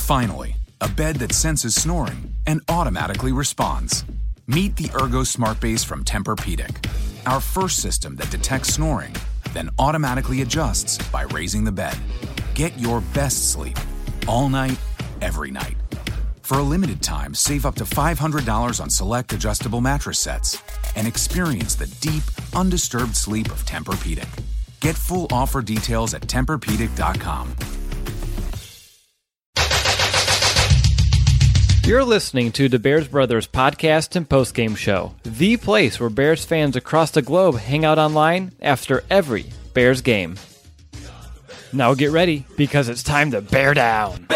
Finally, a bed that senses snoring and automatically responds. Meet the Ergo Smart Base from Tempur-Pedic, our first system that detects snoring, then automatically adjusts by raising the bed. Get your best sleep all night, every night. For a limited time, save up to $500 on select adjustable mattress sets and experience the deep, undisturbed sleep of Tempur-Pedic. Get full offer details at TempurPedic.com. You're listening to the Bears Brothers podcast and postgame show, the place where Bears fans across the globe hang out online after every Bears game. Now get ready, because it's time to bear down.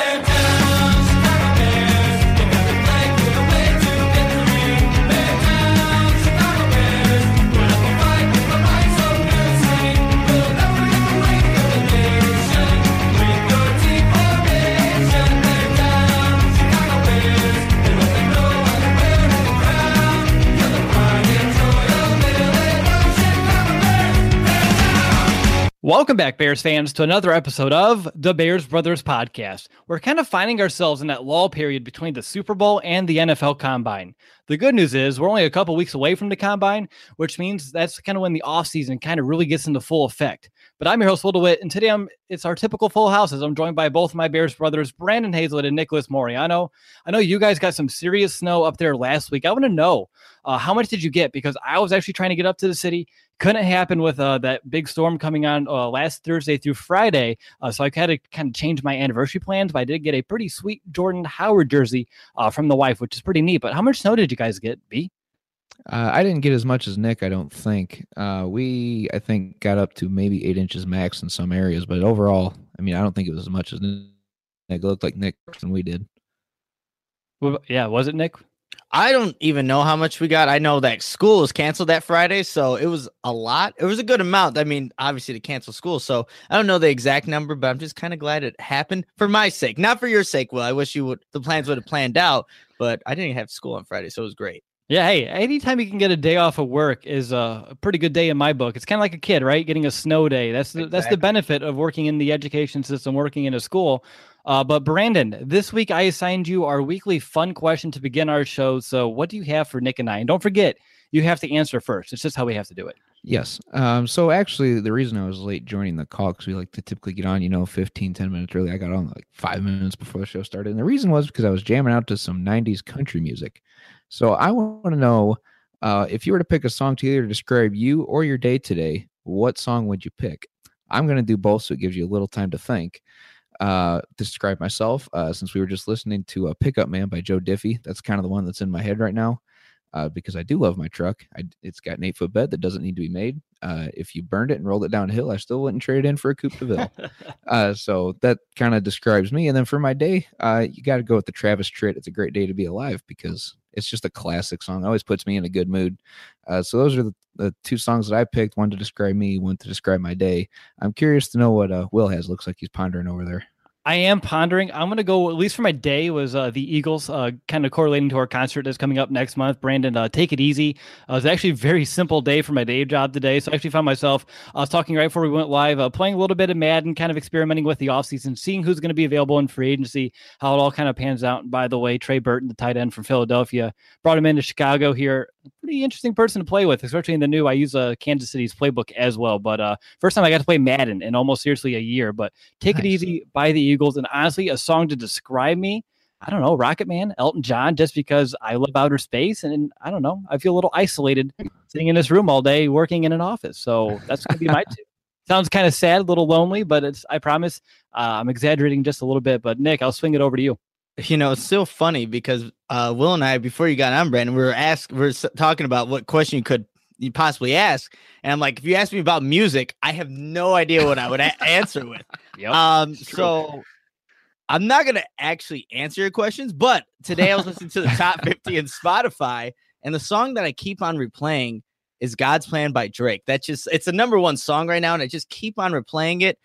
Welcome back, Bears fans, to another episode of the Bears Brothers podcast. We're kind of finding ourselves in that lull period between the Super Bowl and the NFL Combine. The good news is we're only a couple weeks away from the Combine, which means that's kind of when the offseason kind of really gets into full effect. But I'm your host, Will DeWitt, and today it's our typical full house as I'm joined by both of my Bears brothers, Brandon Hazlett and Nicholas Moriano. I know you guys got some serious snow up there last week. I want to know, how much did you get? Because I was actually trying to get up to the city. Couldn't happen with that big storm coming on last Thursday through Friday. So I had to kind of change my anniversary plans, but I did get a pretty sweet Jordan Howard jersey from the wife, which is pretty neat. But how much snow did you guys get, B? I didn't get as much as Nick, I don't think. I think, got up to maybe 8 inches max in some areas. But overall, I mean, I don't think it was as much as Nick. It looked like Nick than we did. Well, yeah, was it, Nick? I don't even know how much we got. I know that school was canceled that Friday, so it was a lot. It was a good amount. I mean, obviously to cancel school, so I don't know the exact number, but I'm just kind of glad it happened for my sake, not for your sake. Will, I wish the plans would have planned out, but I didn't have school on Friday, so it was great. Yeah, hey, anytime you can get a day off of work is a pretty good day in my book. It's kind of like a kid, right? Getting a snow day. That's the benefit of working in the education system, working in a school. But Brandon, this week I assigned you our weekly fun question to begin our show. So what do you have for Nick and I? And don't forget, you have to answer first. It's just how we have to do it. Yes. So actually, the reason I was late joining the call, because we like to typically get on, 15, 10 minutes early. I got on like 5 minutes before the show started. And the reason was because I was jamming out to some 90s country music. So I want to know, if you were to pick a song to either describe you or your day today, what song would you pick? I'm going to do both, so it gives you a little time to think. Describe myself, since we were just listening to Pickup Man by Joe Diffie. That's kind of the one that's in my head right now, because I do love my truck. It's got an 8-foot bed that doesn't need to be made. If you burned it and rolled it down a hill, I still wouldn't trade it in for a Coupe de Ville. So that kind of describes me. And then for my day, you got to go with the Travis Tritt. It's a great day to be alive, because it's just a classic song. It always puts me in a good mood. So those are the two songs that I picked, one to describe me, one to describe my day. I'm curious to know what Will has. Looks like he's pondering over there. I am pondering. I'm going to go, at least for my day, was the Eagles, kind of correlating to our concert that's coming up next month. Brandon, Take It Easy. It was actually a very simple day for my day job today. So I actually found myself, I was talking right before we went live, playing a little bit of Madden, kind of experimenting with the offseason, seeing who's going to be available in free agency, how it all kind of pans out. And by the way, Trey Burton, the tight end from Philadelphia, brought him into Chicago here. Pretty interesting person to play with, especially in the new. I use Kansas City's playbook as well. But first time I got to play Madden in almost seriously a year. But Take It Easy by the Eagles. And honestly, a song to describe me, I don't know, Rocket Man, Elton John, just because I love outer space. And I don't know, I feel a little isolated sitting in this room all day working in an office. So that's going to be my two. Sounds kind of sad, a little lonely, but I promise I'm exaggerating just a little bit. But Nick, I'll swing it over to you. It's still funny because Will and I, before you got on, Brandon, we were talking about what question you possibly ask, and I'm like, if you ask me about music, I have no idea what I would answer with. Yep, so I'm not gonna actually answer your questions, but today I was listening to the top 50 in Spotify, and the song that I keep on replaying is "God's Plan" by Drake. It's the number one song right now, and I just keep on replaying it.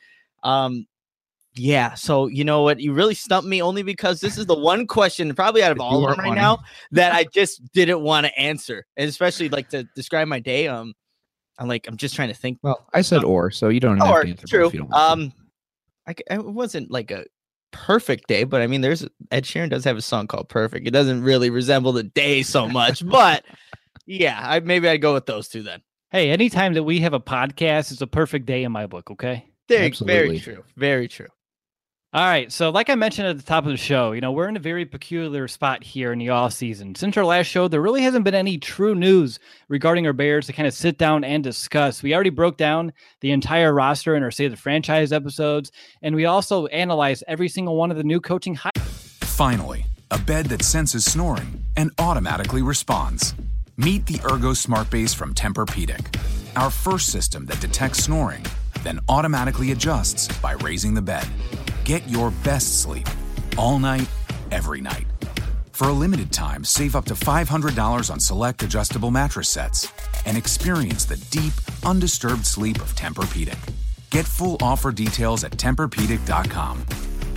Yeah, so you know what? You really stumped me, only because this is the one question, probably out of all of them right now, that I just didn't want to answer, and especially like to describe my day. I'm just trying to think. Well, I said so you don't have to answer. True. If you don't want to. It wasn't like a perfect day, but I mean, Ed Sheeran does have a song called Perfect. It doesn't really resemble the day so much, but yeah, maybe I'd go with those two then. Hey, anytime that we have a podcast, it's a perfect day in my book. Okay. Very true. Very true. All right. So like I mentioned at the top of the show, we're in a very peculiar spot here in the off season. Since our last show, there really hasn't been any true news regarding our Bears to kind of sit down and discuss. We already broke down the entire roster in our State of the Franchise episodes, and we also analyzed every single one of the new coaching hires. Finally, a bed that senses snoring and automatically responds. Meet the Ergo Smart Base from Tempur-Pedic, our first system that detects snoring, then automatically adjusts by raising the bed. Get your best sleep all night, every night. For a limited time, save up to $500 on select adjustable mattress sets and experience the deep, undisturbed sleep of Tempur-Pedic. Get full offer details at TempurPedic.com.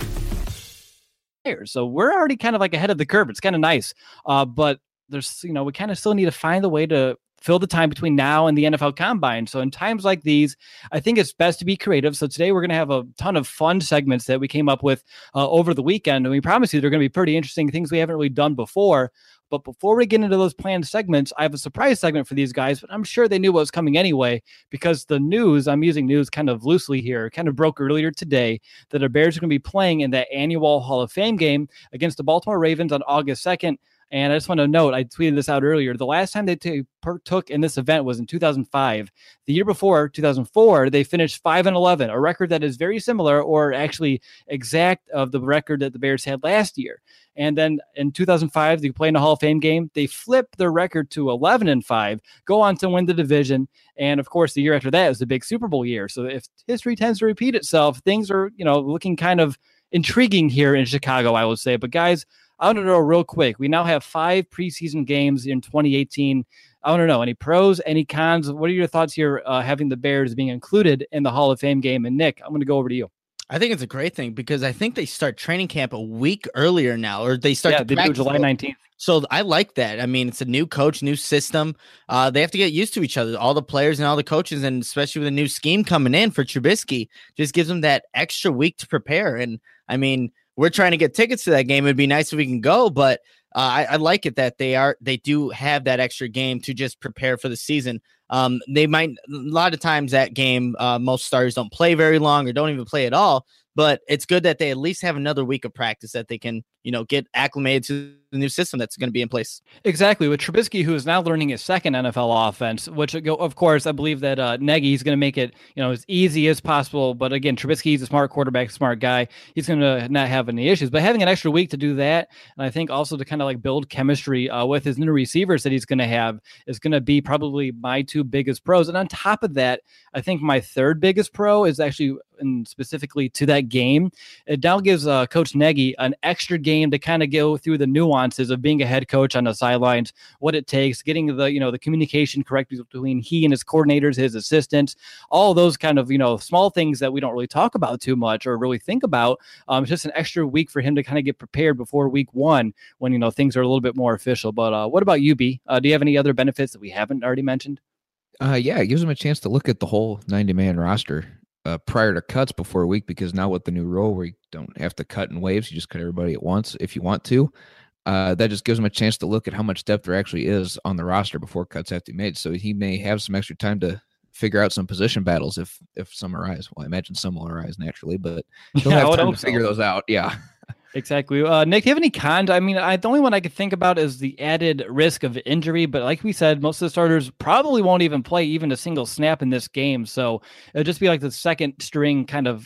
So we're already kind of like ahead of the curve. It's kind of nice. But there's, we kind of still need to find the way to fill the time between now and the NFL Combine. So in times like these, I think it's best to be creative. So today we're going to have a ton of fun segments that we came up with over the weekend. And we promise you they're going to be pretty interesting things we haven't really done before. But before we get into those planned segments, I have a surprise segment for these guys, but I'm sure they knew what was coming anyway, because the news, I'm using news kind of loosely here, kind of broke earlier today that the Bears are going to be playing in that annual Hall of Fame game against the Baltimore Ravens on August 2nd. And I just want to note, I tweeted this out earlier. The last time they took in this event was in 2005. The year before, 2004, they finished 5-11, a record that is very similar, or actually exact, of the record that the Bears had last year. And then in 2005, they play in a Hall of Fame game. They flip their record to 11-5, go on to win the division. And of course, the year after that is the big Super Bowl year. So if history tends to repeat itself, things are, looking kind of intriguing here in Chicago, I would say. But guys, I want to know real quick. We now have 5 preseason games in 2018. I want to know, any pros, any cons? What are your thoughts here, having the Bears being included in the Hall of Fame game? And Nick, I'm going to go over to you. I think it's a great thing because I think they start training camp a week earlier now, or they start they do July 19th. So I like that. I mean, it's a new coach, new system. They have to get used to each other, all the players and all the coaches, and especially with a new scheme coming in for Trubisky, just gives them that extra week to prepare. And I mean, we're trying to get tickets to that game. It'd be nice if we can go, but I like it that they do have that extra game to just prepare for the season. They might, a lot of times that game, most starters don't play very long or don't even play at all, but it's good that they at least have another week of practice that they can, get acclimated to the new system that's going to be in place. Exactly. With Trubisky, who is now learning his second NFL offense, which, of course, I believe that Nagy's going to make it, as easy as possible. But again, Trubisky's a smart quarterback, smart guy. He's going to not have any issues. But having an extra week to do that, and I think also to kind of like build chemistry with his new receivers that he's going to have, is going to be probably my 2 biggest pros. And on top of that, I think my 3rd biggest pro is actually, and specifically to that game, it now gives Coach Nagy an extra game to kind of go through the nuances of being a head coach on the sidelines, what it takes, getting the communication correct between he and his coordinators, his assistants, all those kind of, small things that we don't really talk about too much or really think about. It's just an extra week for him to kind of get prepared before week 1 when, things are a little bit more official. But what about you, B? Do you have any other benefits that we haven't already mentioned? Yeah, it gives them a chance to look at the whole 90-man roster prior to cuts before a week, because now with the new rule where you don't have to cut in waves, you just cut everybody at once if you want to. That just gives him a chance to look at how much depth there actually is on the roster before cuts have to be made. So he may have some extra time to figure out some position battles if some arise. Well, I imagine some will arise naturally, but he'll have time to figure those out. Yeah. Exactly. Nick, do you have any cons? I mean, the only one I could think about is the added risk of injury. But like we said, most of the starters probably won't even play even a single snap in this game. So it'll just be like the second string kind of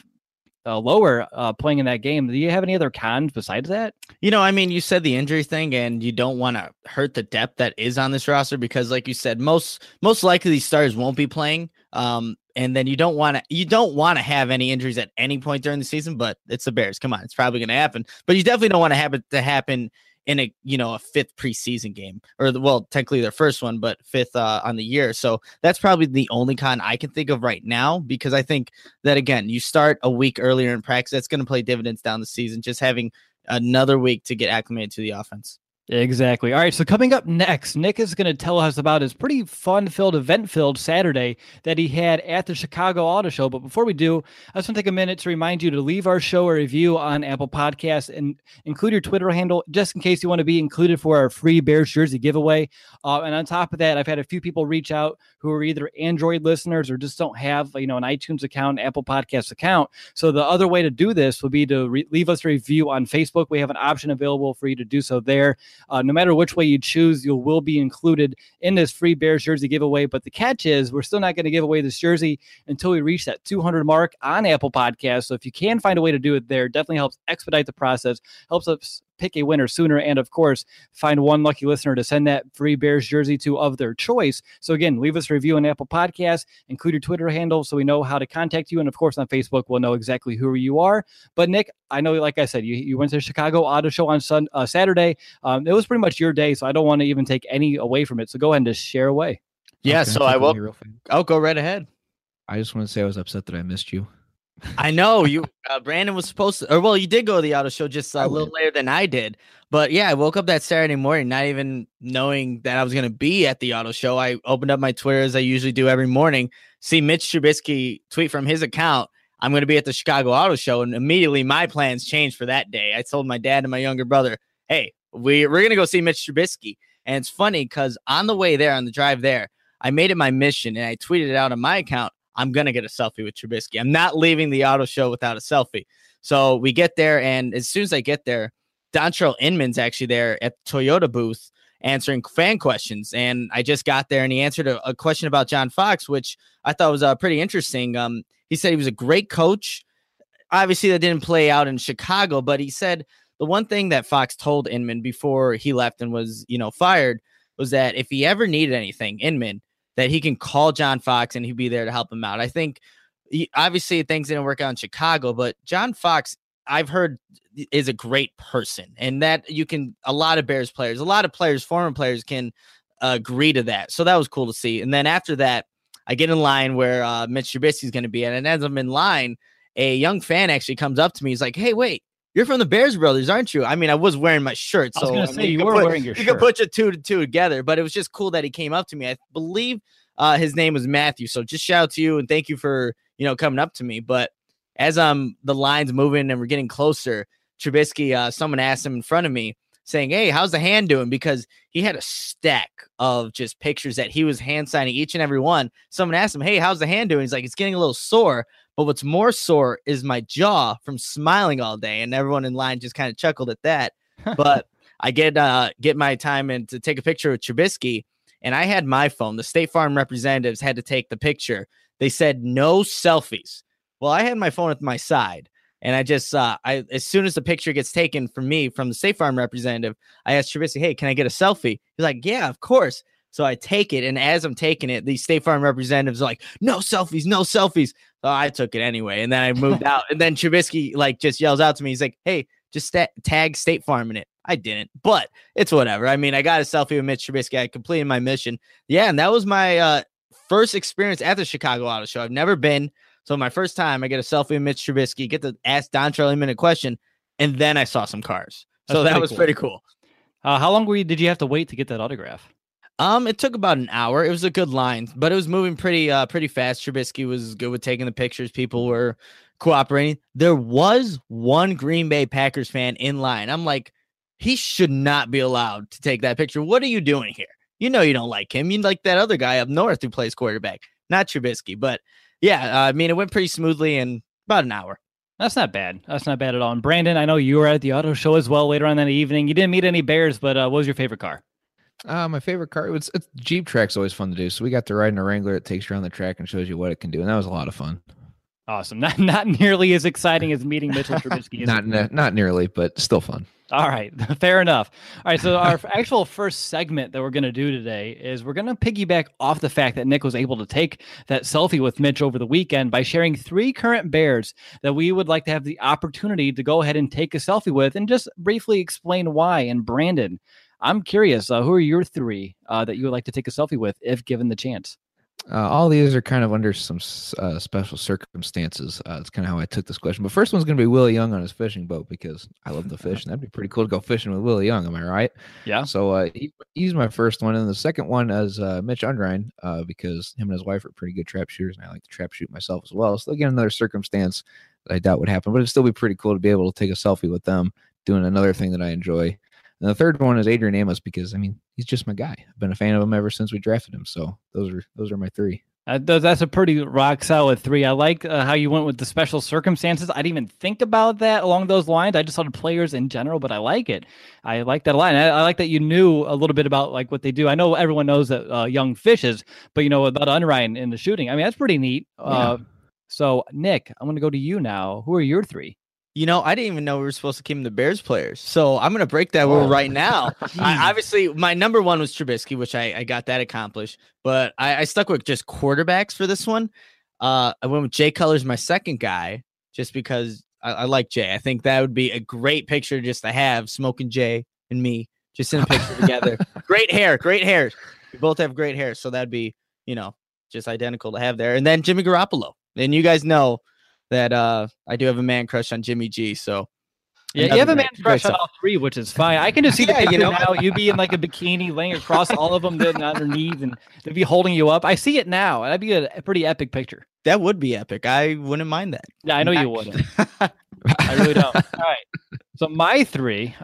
lower playing in that game. Do you have any other cons besides that? I mean, you said the injury thing, and you don't want to hurt the depth that is on this roster because, like you said, most likely these starters won't be playing. And then you don't want to have any injuries at any point during the season, but it's the Bears. Come on, it's probably going to happen. But you definitely don't want to have it to happen in a 5th preseason game, or technically their first one, but 5th on the year. So that's probably the only con I can think of right now, because I think that, again, you start a week earlier in practice, that's going to play dividends down the season, just having another week to get acclimated to the offense. Exactly. All right. So coming up next, Nick is going to tell us about his pretty fun-filled, event-filled Saturday that he had at the Chicago Auto Show. But before we do, I just want to take a minute to remind you to leave our show a review on Apple Podcasts and include your Twitter handle just in case you want to be included for our free Bears jersey giveaway. And on top of that, I've had a few people reach out who are either Android listeners or just don't have, an iTunes account, Apple Podcasts account. So the other way to do this would be to leave us a review on Facebook. We have an option available for you to do so there. No matter which way you choose, you will be included in this free Bears jersey giveaway. But the catch is we're still not going to give away this jersey until we reach that 200 mark on Apple Podcasts. So if you can find a way to do it there, definitely helps expedite the process, helps us pick a winner sooner, and of course, find one lucky listener to send that free Bears jersey to of their choice. So again, leave us a review on Apple Podcasts, include your Twitter handle so we know how to contact you. And of course, on Facebook, we'll know exactly who you are. But Nick, I know, like I said, you went to the Chicago Auto Show on Saturday. It was pretty much your day, so I don't want to even take any away from it. So go ahead and just share away. Yeah, okay, so I will. I'll go right ahead. I just want to say I was upset that I missed you. I know you, Brandon was supposed to, or well, you did go to the auto show just a little later than I did. But yeah, I woke up that Saturday morning, not even knowing that I was going to be at the auto show. I opened up my Twitter as I usually do every morning, see Mitch Trubisky tweet from his account, I'm going to be at the Chicago Auto Show. And immediately my plans changed for that day. I told my dad and my younger brother, hey, we're going to go see Mitch Trubisky. And it's funny because on the way there, on the drive there, I made it my mission and I tweeted it out on my account. I'm going to get a selfie with Trubisky. I'm not leaving the auto show without a selfie. So we get there, and as soon as I get there, Dontrell Inman's actually there at the Toyota booth answering fan questions. And I just got there, and he answered a question about John Fox, which I thought was pretty interesting. He said he was a great coach. Obviously, that didn't play out in Chicago, but he said the one thing that Fox told Inman before he left and was, fired was that if he ever needed anything, Inman, that he can call John Fox and he'd be there to help him out. I think obviously things didn't work out in Chicago, but John Fox, I've heard, is a great person, and that a lot of Bears players, a lot of players, former players can agree to that. So that was cool to see. And then after that, I get in line where Mitch Trubisky is going to be at. And as I'm in line, a young fan actually comes up to me. He's like, hey, wait, you're from the Bears Brothers, aren't you? I mean, I was wearing my shirt. So I was going to say, you were wearing your shirt. You could put your two together, but it was just cool that he came up to me. I believe his name was Matthew. So just shout out to you and thank you for, coming up to me. But as the line's moving and we're getting closer, Trubisky, someone asked him in front of me saying, hey, how's the hand doing? Because he had a stack of just pictures that he was hand signing each and every one. Someone asked him, hey, how's the hand doing? He's like, it's getting a little sore. But what's more sore is my jaw from smiling all day. And everyone in line just kind of chuckled at that. But I get my time and to take a picture with Trubisky. And I had my phone. The State Farm representatives had to take the picture. They said no selfies. Well, I had my phone at my side. And I just, as soon as the picture gets taken from me, from the State Farm representative, I asked Trubisky, hey, can I get a selfie? He's like, yeah, of course. So I take it. And as I'm taking it, the State Farm representatives are like, no selfies, no selfies. So I took it anyway. And then I moved out. And then Trubisky just yells out to me. He's like, hey, just tag State Farm in it. I didn't, but it's whatever. I mean, I got a selfie with Mitch Trubisky. I completed my mission. Yeah. And that was my first experience at the Chicago Auto Show. I've never been. So my first time, I get a selfie with Mitch Trubisky, get to ask Dontrell Inman a question, and then I saw some cars. So that was pretty cool. How long did you have to wait to get that autograph? It took about an hour. It was a good line, but it was moving pretty fast. Trubisky was good with taking the pictures. People were cooperating. There was one Green Bay Packers fan in line. I'm like, he should not be allowed to take that picture. What are you doing here? You know you don't like him. You like that other guy up north who plays quarterback, not Trubisky. But yeah, I mean, it went pretty smoothly in about an hour. That's not bad. That's not bad at all. And Brandon, I know you were at the auto show as well later on that evening. You didn't meet any Bears, but what was your favorite car? My favorite car, it's Jeep track's always fun to do. So we got to ride in a Wrangler. It takes you around the track and shows you what it can do. And that was a lot of fun. Awesome. Not nearly as exciting as meeting Mitchell Trubisky. Not nearly, but still fun. All right. Fair enough. All right. So our actual first segment that we're going to do today is we're going to piggyback off the fact that Nick was able to take that selfie with Mitch over the weekend by sharing 3 current Bears that we would like to have the opportunity to go ahead and take a selfie with and just briefly explain why. And Brandon, I'm curious, who are your 3 that you would like to take a selfie with if given the chance? All these are kind of under some special circumstances. It's kind of how I took this question. But first one's going to be Willie Young on his fishing boat because I love to fish, and that'd be pretty cool to go fishing with Willie Young. Am I right? Yeah. So he's my first one, and the second one is Mitch Undrein because him and his wife are pretty good trap shooters, and I like to trap shoot myself as well. So again, another circumstance that I doubt would happen, but it'd still be pretty cool to be able to take a selfie with them doing another thing that I enjoy. And the third one is Adrian Amos because I mean he's just my guy. I've been a fan of him ever since we drafted him. So those are my three. That's a pretty rock solid 3. I like how you went with the special circumstances. I didn't even think about that along those lines. I just thought of players in general, but I like it. I like that a lot. And I like that you knew a little bit about like what they do. I know everyone knows that Young fishes, but you know about Unrein in the shooting. I mean, that's pretty neat. Yeah. So Nick, I'm going to go to you now. Who are your 3? You know, I didn't even know we were supposed to keep the Bears players. So I'm going to break that rule right now. Obviously, my number 1 was Trubisky, which I got that accomplished. But I stuck with just quarterbacks for this one. I went with Jay Cutler's my second guy, just because I like Jay. I think that would be a great picture just to have, smoking Jay and me just in a picture together. Great hair. We both have great hair. So that'd be, you know, just identical to have there. And then Jimmy Garoppolo. And you guys know that I do have a man crush on Jimmy G. So yeah, you have a man crush on all 3, which is fine. I can just see the picture now. You be in like a bikini laying across all of them, then on their knees, and they'd be holding you up. I see it now. That'd be a pretty epic picture. That would be epic. I wouldn't mind that. Yeah, I know you wouldn't. I really don't. All right. So my 3,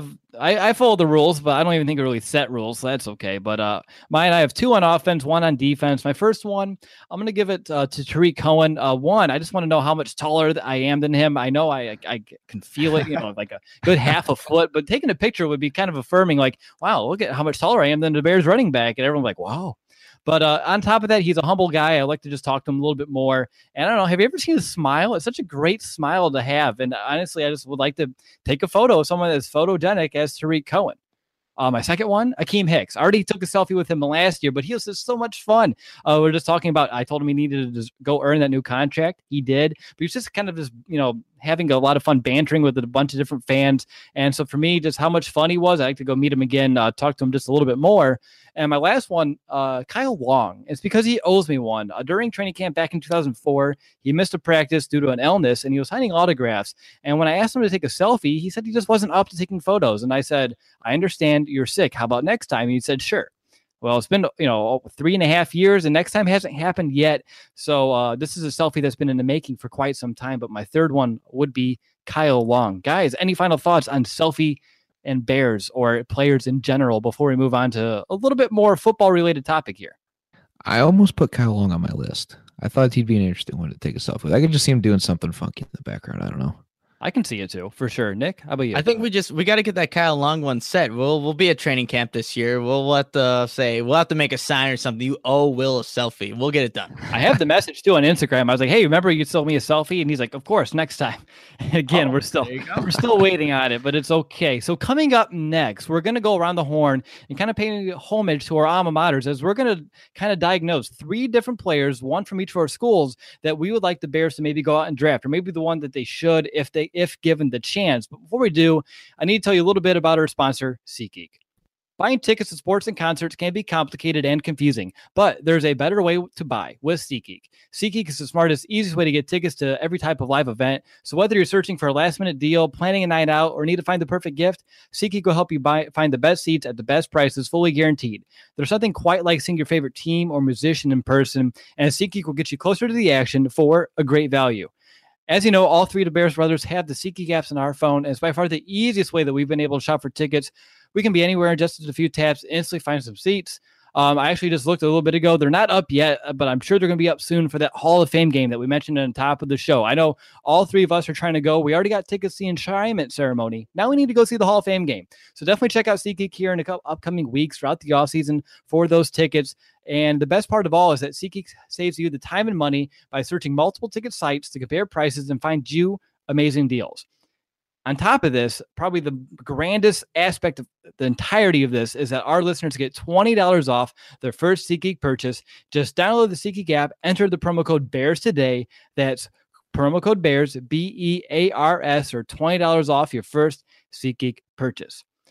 I follow the rules, but I don't even think I really set rules, so that's okay. But mine, I have 2 on offense, 1 on defense. My first one, I'm going to give it to Tariq Cohen. 1, I just want to know how much taller I am than him. I know I can feel it, you know, like a good half a foot, but taking a picture would be kind of affirming, like, wow, look at how much taller I am than the Bears running back. And everyone's like, wow. But on top of that, he's a humble guy. I like to just talk to him a little bit more. And I don't know, have you ever seen his smile? It's such a great smile to have. And honestly, I just would like to take a photo of someone that's photogenic as Tariq Cohen. My second one, Akeem Hicks. I already took a selfie with him last year, but he was just so much fun. We're just talking about, I told him he needed to just go earn that new contract. He did. But he was just kind of just, you know, having a lot of fun bantering with a bunch of different fans. And so for me, just how much fun he was, I'd like to go meet him again, talk to him just a little bit more. And my last one, Kyle Long. It's because he owes me one. During training camp back in 2004, he missed a practice due to an illness, and he was signing autographs. And when I asked him to take a selfie, he said he just wasn't up to taking photos. And I said, I understand you're sick. How about next time? And he said, sure. Well, it's been, 3.5 years, and next time hasn't happened yet. So this is a selfie that's been in the making for quite some time. But my third one would be Kyle Long. Guys, any final thoughts on selfie and Bears or players in general before we move on to a little bit more football-related topic here? I almost put Kyle Long on my list. I thought he'd be an interesting one to take a selfie with. I could just see him doing something funky in the background. I don't know. I can see it too, for sure. Nick, how about you? I think we got to get that Kyle Long one set. We'll be at training camp this year. We'll have to make a sign or something. You owe Will a selfie. We'll get it done. I have the message too on Instagram. I was like, hey, remember you sold me a selfie? And he's like, of course, next time. And again, we're still waiting on it, but it's okay. So coming up next, we're going to go around the horn and kind of pay homage to our alma maters as we're going to kind of diagnose 3 different players, one from each of our schools that we would like the Bears to maybe go out and draft, or maybe the one that they should if given the chance. But before we do, I need to tell you a little bit about our sponsor, SeatGeek. Buying tickets to sports and concerts can be complicated and confusing, but there's a better way to buy with SeatGeek. SeatGeek is the smartest, easiest way to get tickets to every type of live event. So whether you're searching for a last-minute deal, planning a night out, or need to find the perfect gift, SeatGeek will help you find the best seats at the best prices, fully guaranteed. There's nothing quite like seeing your favorite team or musician in person, and SeatGeek will get you closer to the action for a great value. As you know, all 3 of the Bears brothers have the SeatGeek apps on our phone, and it's by far the easiest way that we've been able to shop for tickets. We can be anywhere in just a few taps, instantly find some seats. I actually just looked a little bit ago. They're not up yet, but I'm sure they're going to be up soon for that Hall of Fame game that we mentioned on the top of the show. I know all 3 of us are trying to go. We already got tickets to the enshrinement ceremony. Now we need to go see the Hall of Fame game. So definitely check out SeatGeek here in a couple upcoming weeks throughout the offseason for those tickets. And the best part of all is that SeatGeek saves you the time and money by searching multiple ticket sites to compare prices and find you amazing deals. On top of this, probably the grandest aspect of the entirety of this is that our listeners get $20 off their first SeatGeek purchase. Just download the SeatGeek app, enter the promo code BEARS today. That's promo code BEARS, BEARS, or $20 off your first SeatGeek purchase.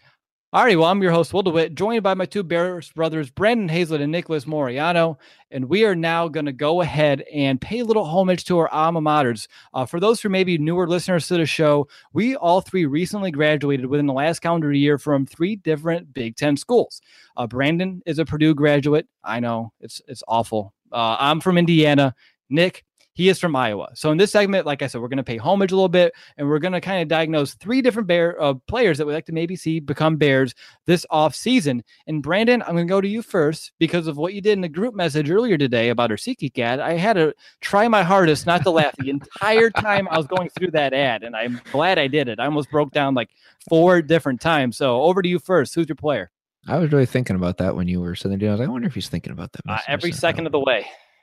Alrighty, well, I'm your host, Will DeWitt, joined by my two Bears brothers, Brandon Hazlett and Nicholas Moriano. And we are now going to go ahead and pay a little homage to our alma maters. For those who may be newer listeners to the show, we all three recently graduated within the last calendar year from 3 different Big Ten schools. Brandon is a Purdue graduate. I know, it's awful. I'm from Indiana. Nick, he is from Iowa. So in this segment, like I said, we're going to pay homage a little bit, and we're going to kind of diagnose 3 different players that we'd like to maybe see become Bears this offseason. And Brandon, I'm going to go to you first because of what you did in the group message earlier today about our SeatGeek ad. I had to try my hardest not to laugh the entire time I was going through that ad, and I'm glad I did it. I almost broke down like 4 different times. So over to you first. Who's your player? I was really thinking about that when you were sitting there. I was like, I wonder if he's thinking about that. Every second of the way.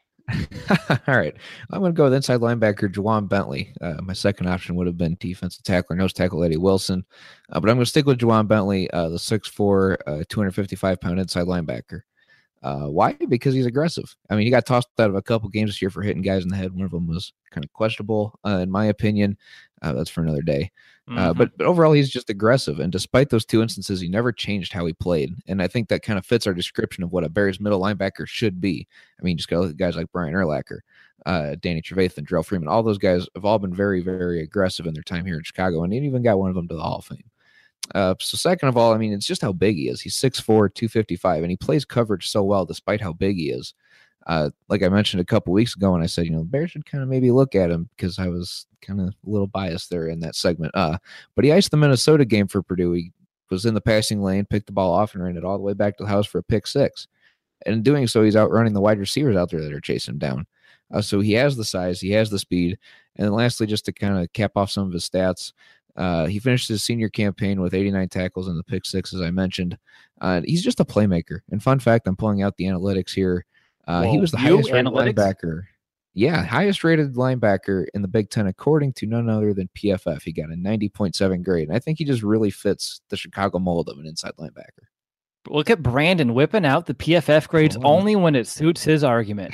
All right. I'm going to go with inside linebacker Juwan Bentley. My second option would have been defensive tackle, nose tackle Eddie Wilson. But I'm going to stick with Juwan Bentley, the 6'4", 255-pound inside linebacker. Why? Because he's aggressive. I mean, he got tossed out of a couple games this year for hitting guys in the head. One of them was kind of questionable, in my opinion. That's for another day. But overall, he's just aggressive. And despite those 2 instances, he never changed how he played. And I think that kind of fits our description of what a Bears middle linebacker should be. I mean, just go look at guys like Brian Urlacher, Danny Trevathan, Darrell Freeman. All those guys have all been very, very aggressive in their time here in Chicago. And he even got one of them to the Hall of Fame. So second of all, I mean, it's just how big he is. He's 6'4", 255, and he plays coverage so well despite how big he is. Like I mentioned a couple weeks ago, and I said, the Bears should kind of maybe look at him because I was kind of a little biased there in that segment. But he iced the Minnesota game for Purdue. He was in the passing lane, picked the ball off, and ran it all the way back to the house for a pick 6. And in doing so, he's outrunning the wide receivers out there that are chasing him down. So he has the size, he has the speed. And then lastly, just to kind of cap off some of his stats, he finished his senior campaign with 89 tackles and the pick 6, as I mentioned. He's just a playmaker. And fun fact, I'm pulling out the analytics here. He was the highest rated linebacker. Yeah, highest rated linebacker in the Big Ten, according to none other than PFF. He got a 90.7 grade. And I think he just really fits the Chicago mold of an inside linebacker. Look at Brandon whipping out the PFF grades only when it suits his argument.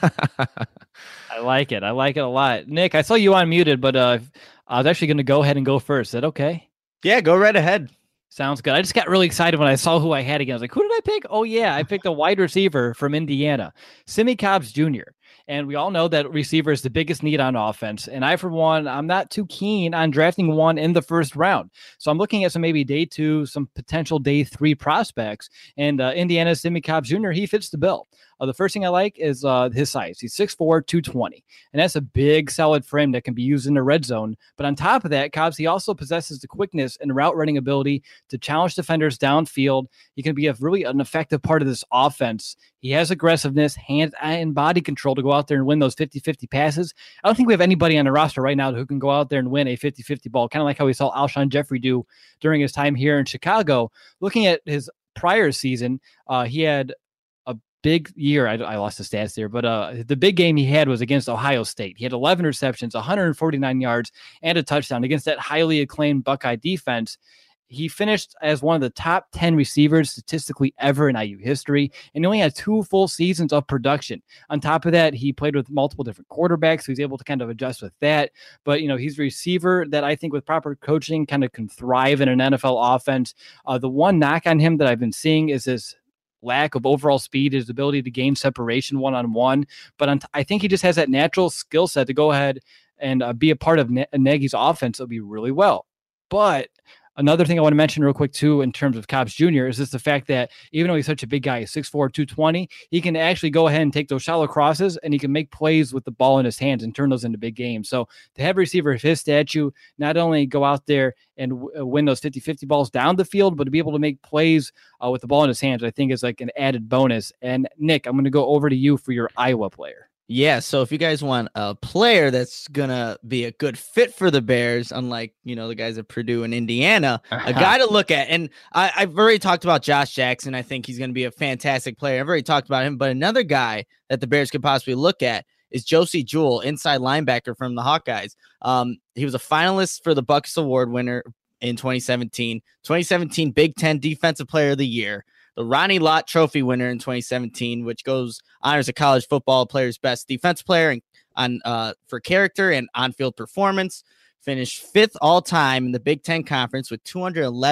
I like it. I like it a lot. Nick, I saw you unmuted, but I was actually going to go ahead and go first. Is that okay? Yeah, go right ahead. Sounds good. I just got really excited when I saw who I had again. I was like, who did I pick? Oh, yeah, I picked a wide receiver from Indiana, Simmie Cobbs Jr. And we all know that receiver is the biggest need on offense. And I, for one, I'm not too keen on drafting one in the first round. So I'm looking at some maybe day 2, some potential day 3 prospects. And Indiana's Simmie Cobbs Jr., he fits the bill. The first thing I like is his size. He's 6'4", 220. And that's a big, solid frame that can be used in the red zone. But on top of that, Cobbs, he also possesses the quickness and route running ability to challenge defenders downfield. He can be an effective part of this offense. He has aggressiveness, hand and body control to go out there and win those 50-50 passes. I don't think we have anybody on the roster right now who can go out there and win a 50-50 ball, kind of like how we saw Alshon Jeffrey do during his time here in Chicago. Looking at his prior season, he had big year. I lost the stats there, but the big game he had was against Ohio State. He had 11 receptions, 149 yards, and a touchdown against that highly acclaimed Buckeye defense. He finished as one of the top 10 receivers statistically ever in IU history, and he only had 2 full seasons of production. On top of that, he played with multiple different quarterbacks, so he's able to kind of adjust with that. But, he's a receiver that I think with proper coaching kind of can thrive in an NFL offense. The one knock on him that I've been seeing is his lack of overall speed, his ability to gain separation one-on-one. But I think he just has that natural skill set to go ahead and be a part of Nagy's offense. It'll be really well. But another thing I want to mention real quick, too, in terms of Cobbs Jr. is just the fact that even though he's such a big guy, 6'4", 220, he can actually go ahead and take those shallow crosses and he can make plays with the ball in his hands and turn those into big games. So to have a receiver of his stature, not only go out there and win those 50-50 balls down the field, but to be able to make plays with the ball in his hands, I think is like an added bonus. And Nick, I'm going to go over to you for your Iowa player. Yeah, so if you guys want a player that's going to be a good fit for the Bears, unlike, the guys at Purdue and Indiana, a guy to look at. And I've already talked about Josh Jackson. I think he's going to be a fantastic player. I've already talked about him. But another guy that the Bears could possibly look at is Josie Jewell, inside linebacker from the Hawkeyes. He was a finalist for the Bucks Award winner in 2017. 2017 Big Ten Defensive Player of the Year. The Ronnie Lott Trophy winner in 2017, which honors a college football player's best defense player for character and on-field performance. Finished 5th all-time in the Big Ten Conference with 211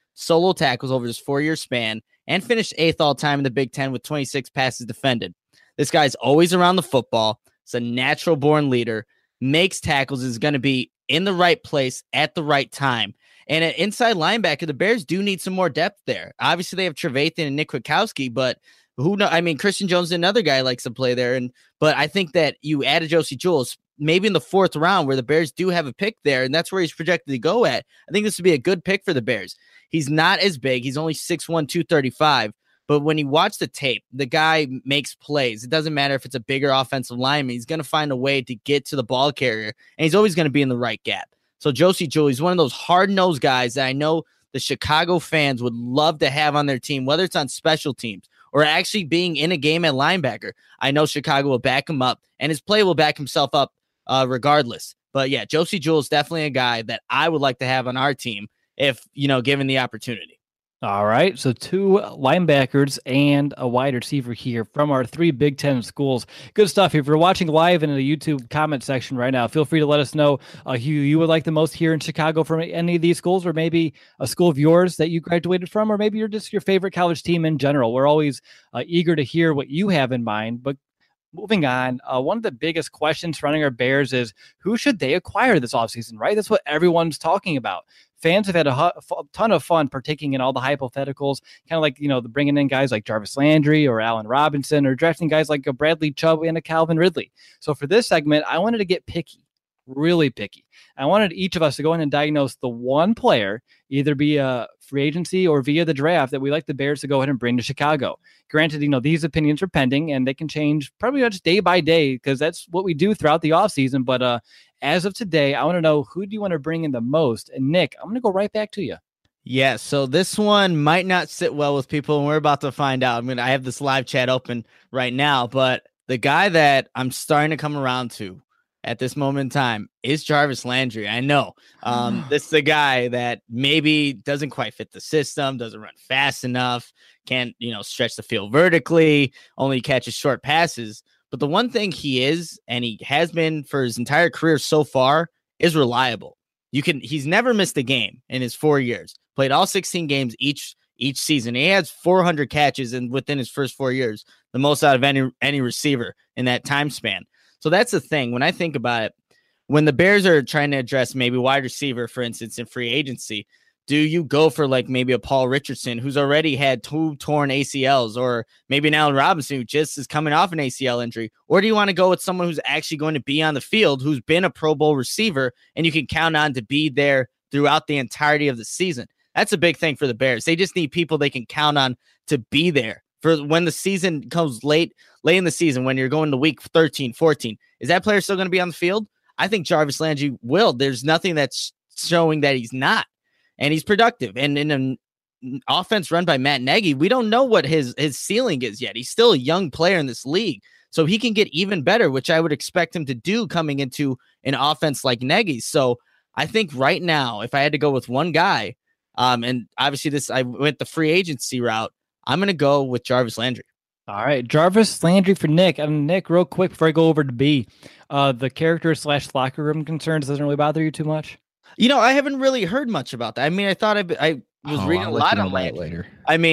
solo tackles over his 4-year span and finished 8th all-time in the Big Ten with 26 passes defended. This guy's always around the football. It's a natural-born leader, makes tackles, is going to be in the right place at the right time. And at inside linebacker, the Bears do need some more depth there. Obviously, they have Trevathan and Nick Kwiatkowski, but who knows? I mean, Christian Jones is another guy likes to play there. But I think that you added Josie Jules maybe in the 4th round where the Bears do have a pick there, and that's where he's projected to go at. I think this would be a good pick for the Bears. He's not as big. He's only 6'1", 235. But when you watch the tape, the guy makes plays. It doesn't matter if it's a bigger offensive lineman. He's going to find a way to get to the ball carrier, and he's always going to be in the right gap. So Josie Jewell, he's one of those hard-nosed guys that I know the Chicago fans would love to have on their team, whether it's on special teams or actually being in a game at linebacker. I know Chicago will back him up, and his play will back himself up regardless. But yeah, Josie Jewell is definitely a guy that I would like to have on our team if, given the opportunity. All right, so 2 linebackers and a wide receiver here from our 3 Big Ten schools. Good stuff. If you're watching live in the YouTube comment section right now, feel free to let us know who you would like the most here in Chicago from any of these schools, or maybe a school of yours that you graduated from, or maybe you're just your favorite college team in general. We're always eager to hear what you have in mind. But moving on, one of the biggest questions surrounding our Bears is who should they acquire this offseason, right? That's what everyone's talking about. Fans have had a ton of fun partaking in all the hypotheticals, kind of like, bringing in guys like Jarvis Landry or Allen Robinson, or drafting guys like a Bradley Chubb and a Calvin Ridley. So for this segment, I wanted to get picky, really picky. I wanted each of us to go in and diagnose the one player, either via free agency or via the draft, that we like the Bears to go ahead and bring to Chicago. Granted, these opinions are pending and they can change probably just day by day, because that's what we do throughout the offseason. But as of today, I want to know, who do you want to bring in the most? And Nick, I'm going to go right back to you. Yeah, so this one might not sit well with people, and we're about to find out. I have this live chat open right now, but the guy that I'm starting to come around to at this moment in time is Jarvis Landry. I know this is the guy that maybe doesn't quite fit the system, doesn't run fast enough, can't, stretch the field vertically, only catches short passes. But the one thing he is, and he has been for his entire career so far, is reliable. He's never missed a game in his 4 years. Played all 16 games each season. He has 400 catches within his first 4 years, the most out of any receiver in that time span. So that's the thing. When I think about it, when the Bears are trying to address maybe wide receiver, for instance, in free agency, do you go for like maybe a Paul Richardson who's already had 2 torn ACLs, or maybe an Allen Robinson who just is coming off an ACL injury? Or do you want to go with someone who's actually going to be on the field, who's been a Pro Bowl receiver, and you can count on to be there throughout the entirety of the season? That's a big thing for the Bears. They just need people they can count on to be there for when the season comes late in the season, when you're going to week 13, 14. Is that player still going to be on the field? I think Jarvis Landry will. There's nothing that's showing that he's not. And he's productive. And in an offense run by Matt Nagy, we don't know what his ceiling is yet. He's still a young player in this league. So he can get even better, which I would expect him to do coming into an offense like Nagy's. So I think right now, if I had to go with one guy, and obviously I went the free agency route, I'm going to go with Jarvis Landry. All right, Jarvis Landry for Nick. And Nick, real quick before I go over to B, the character / locker room concerns doesn't really bother you too much? I haven't really heard much about that. I thought I was reading a lot on Landry later.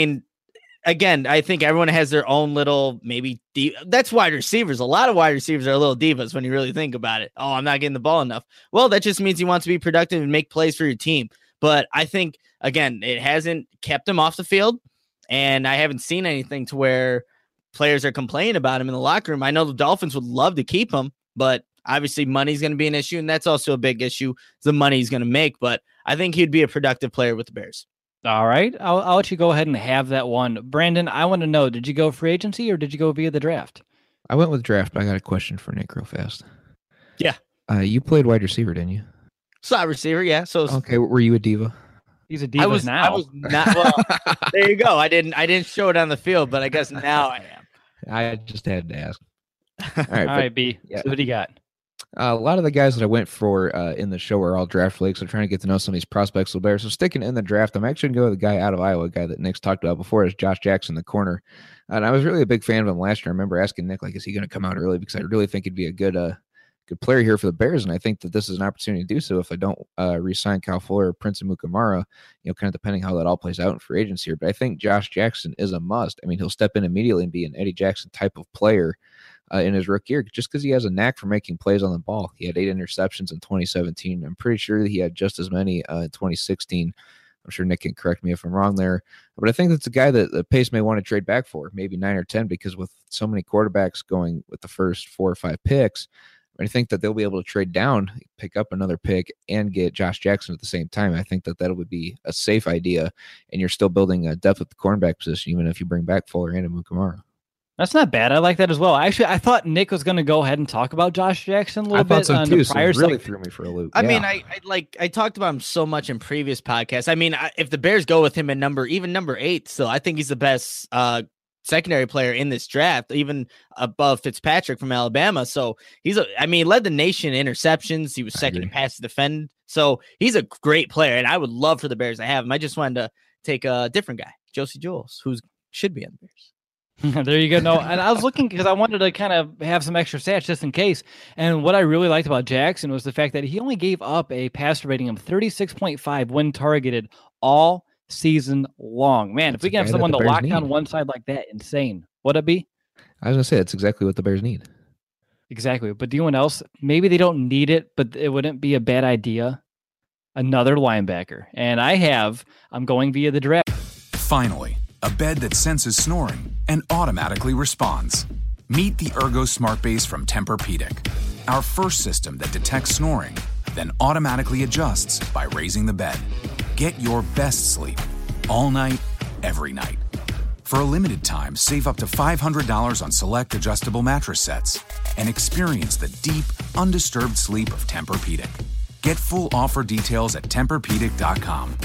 Again, I think everyone has their own little that's wide receivers. A lot of wide receivers are little divas when you really think about it. Oh, I'm not getting the ball enough. Well, that just means you want to be productive and make plays for your team. But I think, again, it hasn't kept him off the field, and I haven't seen anything to where players are complaining about him in the locker room. I know the Dolphins would love to keep him, but obviously money's going to be an issue, and that's also a big issue, the money he's going to make. But I think he'd be a productive player with the Bears. All right. I'll let you go ahead and have that one. Brandon, I want to know, did you go free agency or did you go via the draft? I went with draft, but I got a question for Nick real fast. Yeah. You played wide receiver, didn't you? Slot receiver, yeah. So okay, were you a diva? He's a diva now. I was not. Well, there you go. I didn't show it on the field, but I guess now I am. I just had to ask. All right, B. Yeah. So what do you got? A lot of the guys that I went for in the show are all draft leagues. I'm trying to get to know some of these prospects a little better. So sticking in the draft, I'm actually going to go with the guy out of Iowa, a guy that Nick's talked about before, is Josh Jackson, the corner. And I was really a big fan of him last year. I remember asking Nick, is he going to come out early? Because I really think he'd be a good good player here for the Bears, and I think that this is an opportunity to do so if I don't re-sign Kyle Fuller or Prince Amukamara, kind of depending how that all plays out in free agency here. But I think Josh Jackson is a must. I mean, he'll step in immediately and be an Eddie Jackson type of player in his rookie year, just because he has a knack for making plays on the ball. He had 8 interceptions in 2017. I'm pretty sure that he had just as many in 2016. I'm sure Nick can correct me if I'm wrong there. But I think that's a guy that the Pace may want to trade back for, maybe 9 or 10, because with so many quarterbacks going with the first 4 or 5 picks, I think that they'll be able to trade down, pick up another pick, and get Josh Jackson at the same time. I think that would be a safe idea, and you're still building a depth at the cornerback position, even if you bring back Fuller and Amukamara. That's not bad. I like that as well. Actually, I thought Nick was going to go ahead and talk about Josh Jackson a little bit. So on too, the prior so really threw me for a loop. I mean, I talked about him so much in previous podcasts. I mean, if the Bears go with him at number 8, still, I think he's the best secondary player in this draft, even above Fitzpatrick from Alabama. So led the nation in interceptions. He was second in pass defend. So he's a great player, and I would love for the Bears to have him. I just wanted to take a different guy, Josie Jules, who should be on the Bears. There you go. No, and I was looking because I wanted to kind of have some extra stats just in case. And what I really liked about Jackson was the fact that he only gave up a passer rating of 36.5 when targeted all season long. Man, if we can have someone to lock down one side like that, insane. What'd it be? I was going to say, that's exactly what the Bears need. Exactly. But anyone else, maybe they don't need it, but it wouldn't be a bad idea. Another linebacker. And I'm going via the draft. Finally, a bed that senses snoring and automatically responds. Meet the Ergo Smart Base from Tempur-Pedic, our first system that detects snoring, then automatically adjusts by raising the bed. Get your best sleep all night, every night. For a limited time, save up to $500 on select adjustable mattress sets and experience the deep, undisturbed sleep of Tempur-Pedic. Get full offer details at TempurPedic.com.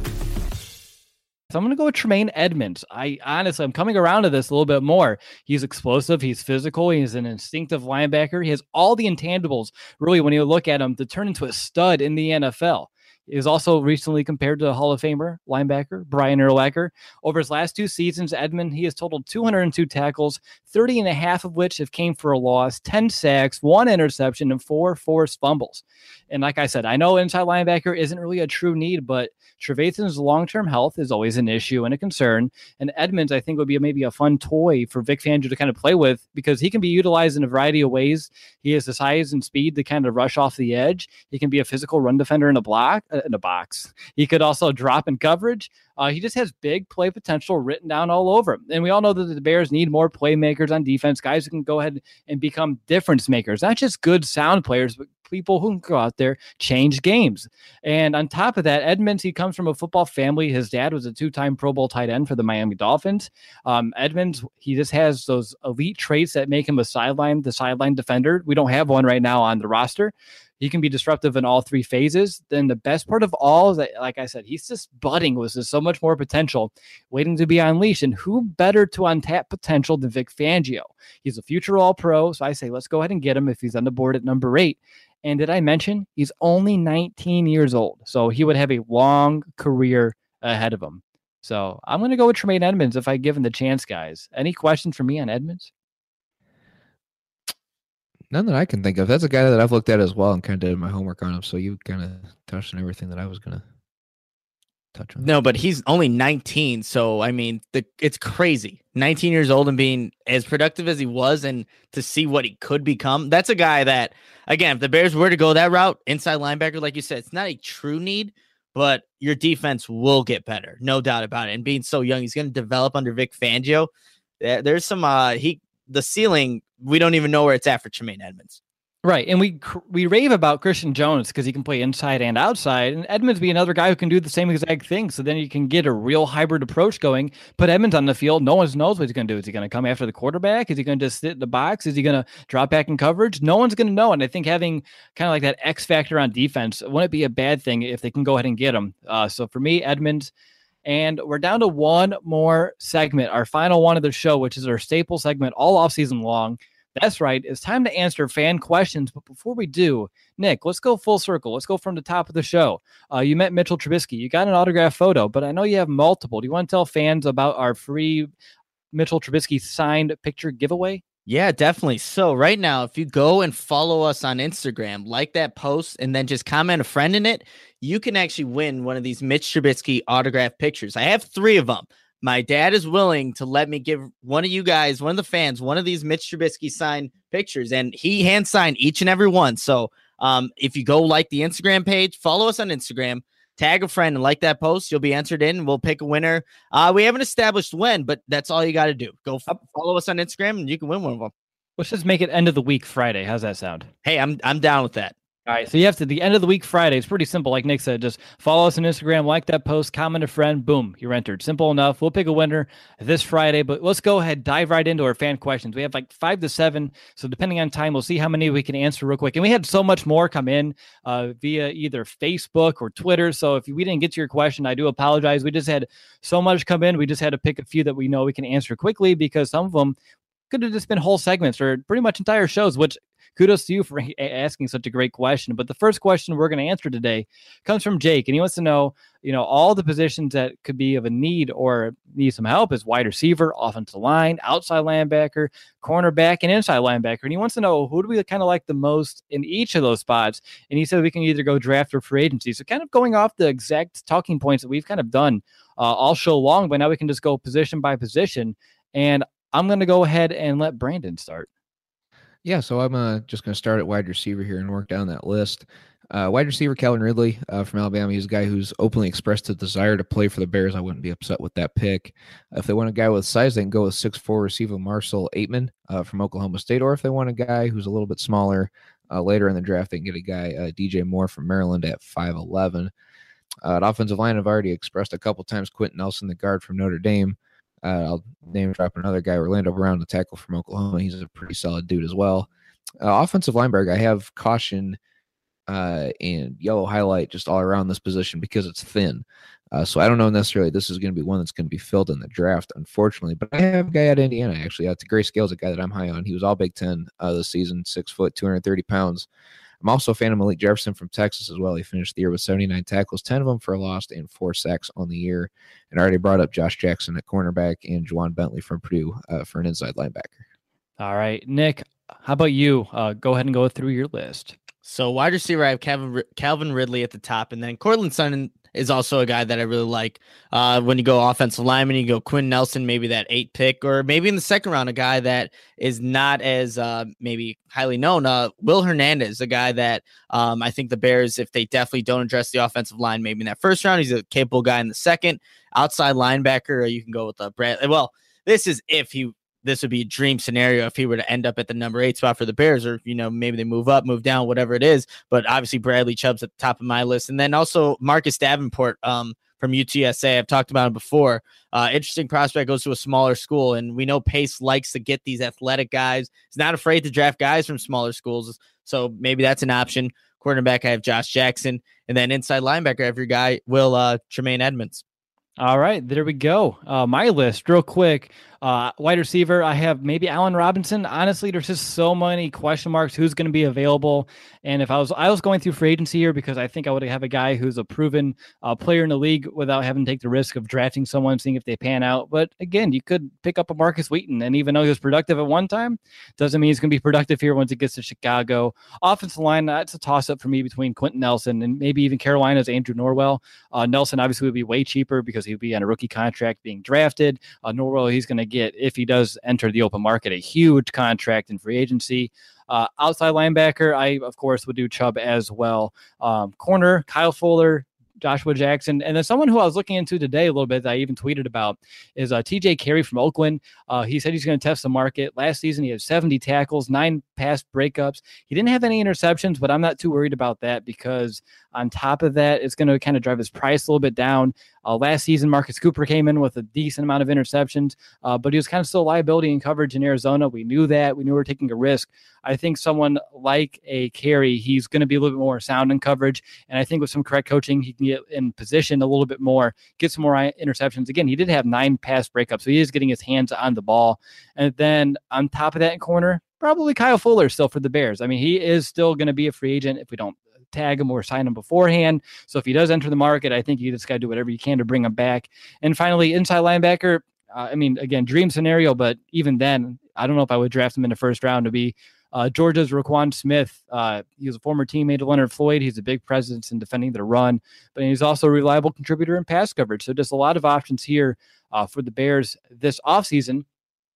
So I'm going to go with Tremaine Edmunds. I'm coming around to this a little bit more. He's explosive. He's physical. He's an instinctive linebacker. He has all the intangibles, really, when you look at him, to turn into a stud in the NFL. He was also recently compared to Hall of Famer linebacker Brian Urlacher. Over his last 2 seasons, he has totaled 202 tackles, 30 and a half of which have came for a loss, 10 sacks, 1 interception, and 4 forced fumbles. And like I said, I know inside linebacker isn't really a true need, but Trevathan's long-term health is always an issue and a concern. And Edmunds, I think, would be maybe a fun toy for Vic Fangio to kind of play with, because he can be utilized in a variety of ways. He has the size and speed to kind of rush off the edge. He can be a physical run defender in a box. He could also drop in coverage. He just has big play potential written down all over him. And we all know that the Bears need more playmakers on defense, guys who can go ahead and become difference makers, not just good sound players, but people who can go out there, change games. And on top of that, Edmunds, he comes from a football family. His dad was a 2-time Pro Bowl tight end for the Miami Dolphins. Edmunds, he just has those elite traits that make him the sideline defender. We don't have one right now on the roster. He can be disruptive in all 3 phases. Then the best part of all is that, like I said, he's just budding with so much more potential waiting to be unleashed. And who better to untap potential than Vic Fangio? He's a future All-Pro, so I say let's go ahead and get him if he's on the board at number 8. And did I mention he's only 19 years old? So he would have a long career ahead of him. So I'm going to go with Tremaine Edmunds if I give him the chance, guys. Any questions for me on Edmunds? None that I can think of. That's a guy that I've looked at as well and kind of did my homework on him. So you kind of touched on everything that I was going to touch on. No, but he's only 19. So, I mean, it's crazy. 19 years old and being as productive as he was, and to see what he could become. That's a guy that, again, if the Bears were to go that route, inside linebacker, like you said, it's not a true need, but your defense will get better. No doubt about it. And being so young, he's going to develop under Vic Fangio. There's some, the ceiling, we don't even know where it's at for Tremaine Edmunds. Right, and we rave about Christian Jones because he can play inside and outside, and Edmunds be another guy who can do the same exact thing. So then you can get a real hybrid approach going. Put Edmunds on the field, no one knows what he's going to do. Is he going to come after the quarterback? Is he going to just sit in the box? Is he going to drop back in coverage? No one's going to know. And I think having kind of like that X factor on defense wouldn't be a bad thing if they can go ahead and get him. So for me, Edmunds. And we're down to one more segment, our final one of the show, which is our staple segment all off season long. That's right. It's time to answer fan questions. But before we do, Nick, let's go full circle. Let's go from the top of the show. You met Mitchell Trubisky. You got an autograph photo, but I know you have multiple. Do you want to tell fans about our free Mitchell Trubisky signed picture giveaway? Yeah, definitely. So right now, if you go and follow us on Instagram, like that post, and then just comment a friend in it, you can actually win one of these Mitch Trubisky autographed pictures. I have 3 of them. My dad is willing to let me give one of you guys, one of the fans, one of these Mitch Trubisky signed pictures, and he hand signed each and every one. So if you go like the Instagram page, follow us on Instagram, tag a friend and like that post, you'll be entered in. We'll pick a winner. We haven't established when, but that's all you got to do. Go follow us on Instagram and you can win one of them. Let's just make it end of the week Friday. How's that sound? Hey, I'm down with that. All right, so you have to the end of the week Friday. It's pretty simple. Like Nick said, just follow us on Instagram, like that post, comment a friend, boom, you're entered. Simple enough. We'll pick a winner this Friday, but let's go ahead, dive right into our fan questions. We have like 5 to 7, so depending on time, we'll see how many we can answer real quick. And we had so much more come in via either Facebook or Twitter. So if we didn't get to your question, I do apologize. We just had so much come in. We just had to pick a few that we know we can answer quickly because some of them could have just been whole segments or pretty much entire shows, which kudos to you for asking such a great question. But the first question we're going to answer today comes from Jake, and he wants to know, all the positions that could be of a need or need some help is wide receiver, offensive line, outside linebacker, cornerback, and inside linebacker. And he wants to know, who do we kind of like the most in each of those spots? And he said we can either go draft or free agency. So kind of going off the exact talking points that we've kind of done all show long, but now we can just go position by position. And I'm going to go ahead and let Brandon start. Yeah, so I'm just going to start at wide receiver here and work down that list. Wide receiver Calvin Ridley from Alabama. He's a guy who's openly expressed a desire to play for the Bears. I wouldn't be upset with that pick. If they want a guy with size, they can go with 6'4" receiver Marcel Aitman from Oklahoma State. Or if they want a guy who's a little bit smaller later in the draft, they can get a guy, DJ Moore from Maryland at 5'11". At offensive line, I've already expressed a couple times Quentin Nelson, the guard from Notre Dame. I'll name drop another guy, Orlando Brown, the tackle from Oklahoma. He's a pretty solid dude as well. Offensive linebacker, I have caution and yellow highlight just all around this position because it's thin. So I don't know necessarily this is going to be one that's going to be filled in the draft, unfortunately. But I have a guy at Indiana, actually. It's Gray Scales, a guy that I'm high on. He was all Big Ten this season, 6 foot, 230 pounds. I'm also a fan of Malik Jefferson from Texas as well. He finished the year with 79 tackles, 10 of them for a loss and 4 sacks on the year. And I already brought up Josh Jackson at cornerback and Juwan Bentley from Purdue for an inside linebacker. All right, Nick, how about you? Go ahead and go through your list. So wide receiver, I have Calvin Ridley at the top, and then Cortland Sutton is also a guy that I really like. When you go offensive lineman, you go Quinn Nelson, maybe that 8 pick, or maybe in the second round, a guy that is not as maybe highly known. Will Hernandez, a guy that I think the Bears, if they definitely don't address the offensive line, maybe in that first round, he's a capable guy in the second. Outside linebacker, you can go with Brad. Well, this would be a dream scenario if he were to end up at the number 8 spot for the Bears, or, maybe they move up, move down, whatever it is. But obviously Bradley Chubb's at the top of my list. And then also Marcus Davenport from UTSA. I've talked about him before. Interesting prospect, goes to a smaller school. And we know Pace likes to get these athletic guys. He's not afraid to draft guys from smaller schools. So maybe that's an option. Quarterback, I have Josh Jackson. And then inside linebacker, I have your guy, Tremaine Edmonds. All right, there we go. My list real quick. Wide receiver, I have maybe Allen Robinson. Honestly, there's just so many question marks. Who's going to be available? And if I was going through free agency here because I think I would have a guy who's a proven player in the league without having to take the risk of drafting someone, seeing if they pan out. But again, you could pick up a Marcus Wheaton, and even though he was productive at one time, doesn't mean he's going to be productive here once he gets to Chicago. Offensive line, that's a toss-up for me between Quentin Nelson and maybe even Carolina's Andrew Norwell. Nelson obviously would be way cheaper because he'd be on a rookie contract being drafted. Norwell, he's going to get, if he does enter the open market, a huge contract in free agency. Outside linebacker, I, of course, would do Chubb as well. Corner, Kyle Fuller, Joshua Jackson. And then someone who I was looking into today a little bit that I even tweeted about is TJ Carey from Oakland. He said he's going to test the market. Last season, he had 70 tackles, 9 pass breakups. He didn't have any interceptions, but I'm not too worried about that because on top of that, it's going to kind of drive his price a little bit down. Last season, Marcus Cooper came in with a decent amount of interceptions, but he was kind of still a liability in coverage in Arizona. We knew that. We knew we were taking a risk. I think someone like a Carey, he's going to be a little bit more sound in coverage, and I think with some correct coaching, he can get in position a little bit more, get some more interceptions. Again, he did have 9 pass breakups, so he is getting his hands on the ball. And then on top of that in corner, probably Kyle Fuller still for the Bears. I mean, he is still going to be a free agent if we don't tag him or sign him beforehand. So if he does enter the market, I think you just got to do whatever you can to bring him back. And finally, inside linebacker, again, dream scenario, but even then, I don't know if I would draft him in the first round to be Georgia's Roquan Smith. He was a former teammate of Leonard Floyd. He's a big presence in defending the run, but he's also a reliable contributor in pass coverage. So just a lot of options here for the Bears this offseason.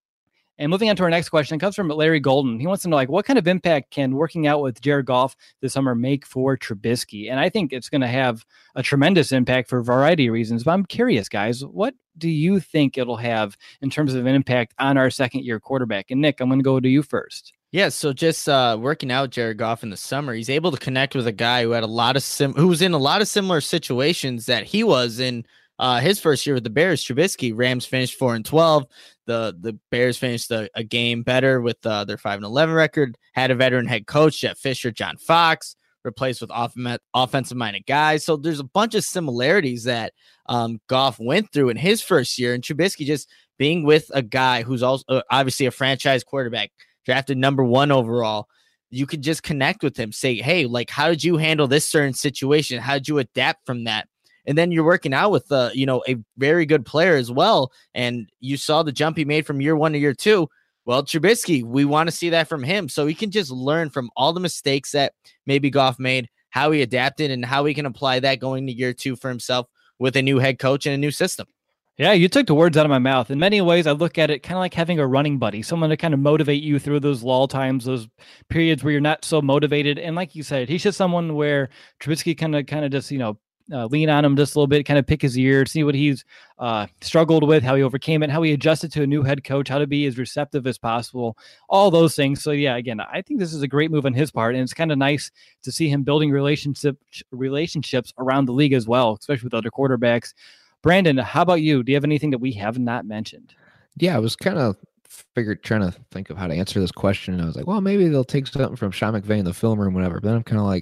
And moving on to our next question, it comes from Larry Golden. He wants to know, what kind of impact can working out with Jared Goff this summer make for Trubisky? And I think it's going to have a tremendous impact for a variety of reasons. But I'm curious, guys, what do you think it'll have in terms of an impact on our second-year quarterback? And Nick, I'm going to go to you first. Yeah, so just working out Jared Goff in the summer, he's able to connect with a guy who had who was in a lot of similar situations that he was in his first year with the Bears. Trubisky, Rams finished 4-12. The Bears finished a game better with their 5-11 record. Had a veteran head coach, Jeff Fisher, John Fox, replaced with offensive-minded guys. So there's a bunch of similarities that Goff went through in his first year, and Trubisky just being with a guy who's also obviously a franchise quarterback, drafted number 1 overall. You could just connect with him, say, hey, how did you handle this certain situation? How did you adapt from that? And then you're working out with a very good player as well. And you saw the jump he made from year 1 to year 2. Well, Trubisky, we want to see that from him. So he can just learn from all the mistakes that maybe Goff made, how he adapted, and how he can apply that going to year 2 for himself with a new head coach and a new system. Yeah, you took the words out of my mouth. In many ways, I look at it kind of like having a running buddy, someone to kind of motivate you through those lull times, those periods where you're not so motivated. And like you said, he's just someone where Trubisky kind of just, lean on him just a little bit, kind of pick his ear, see what he's struggled with, how he overcame it, how he adjusted to a new head coach, how to be as receptive as possible, all those things. So yeah, again, I think this is a great move on his part, and it's kind of nice to see him building relationships around the league as well, especially with other quarterbacks. Brandon, how about you? Do you have anything that we have not mentioned? Yeah, I was kind of trying to think of how to answer this question, and I was like, well, maybe they'll take something from Sean McVay in the film room, whatever. But then I'm kind of like,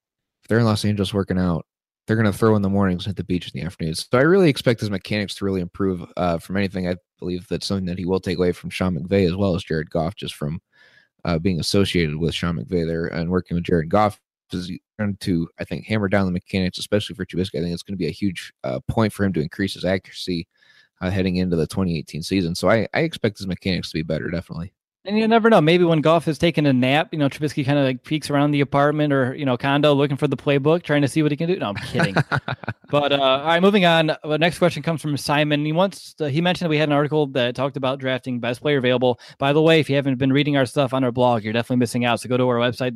if they're in Los Angeles working out, they're going to throw in the mornings and hit the beach in the afternoons. So I really expect his mechanics to really improve from anything. I believe that's something that he will take away from Sean McVay as well as Jared Goff, just from being associated with Sean McVay there and working with Jared Goff. Is going to, I think, hammer down the mechanics, especially for Trubisky. I think it's going to be a huge point for him to increase his accuracy heading into the 2018 season. So I expect his mechanics to be better, definitely. And you never know. Maybe when Goff is taking a nap, Trubisky kind of peeks around the apartment or, condo looking for the playbook, trying to see what he can do. No, I'm kidding. But all right, moving on. The next question comes from Simon. He mentioned that we had an article that talked about drafting best player available. By the way, if you haven't been reading our stuff on our blog, you're definitely missing out. So go to our website,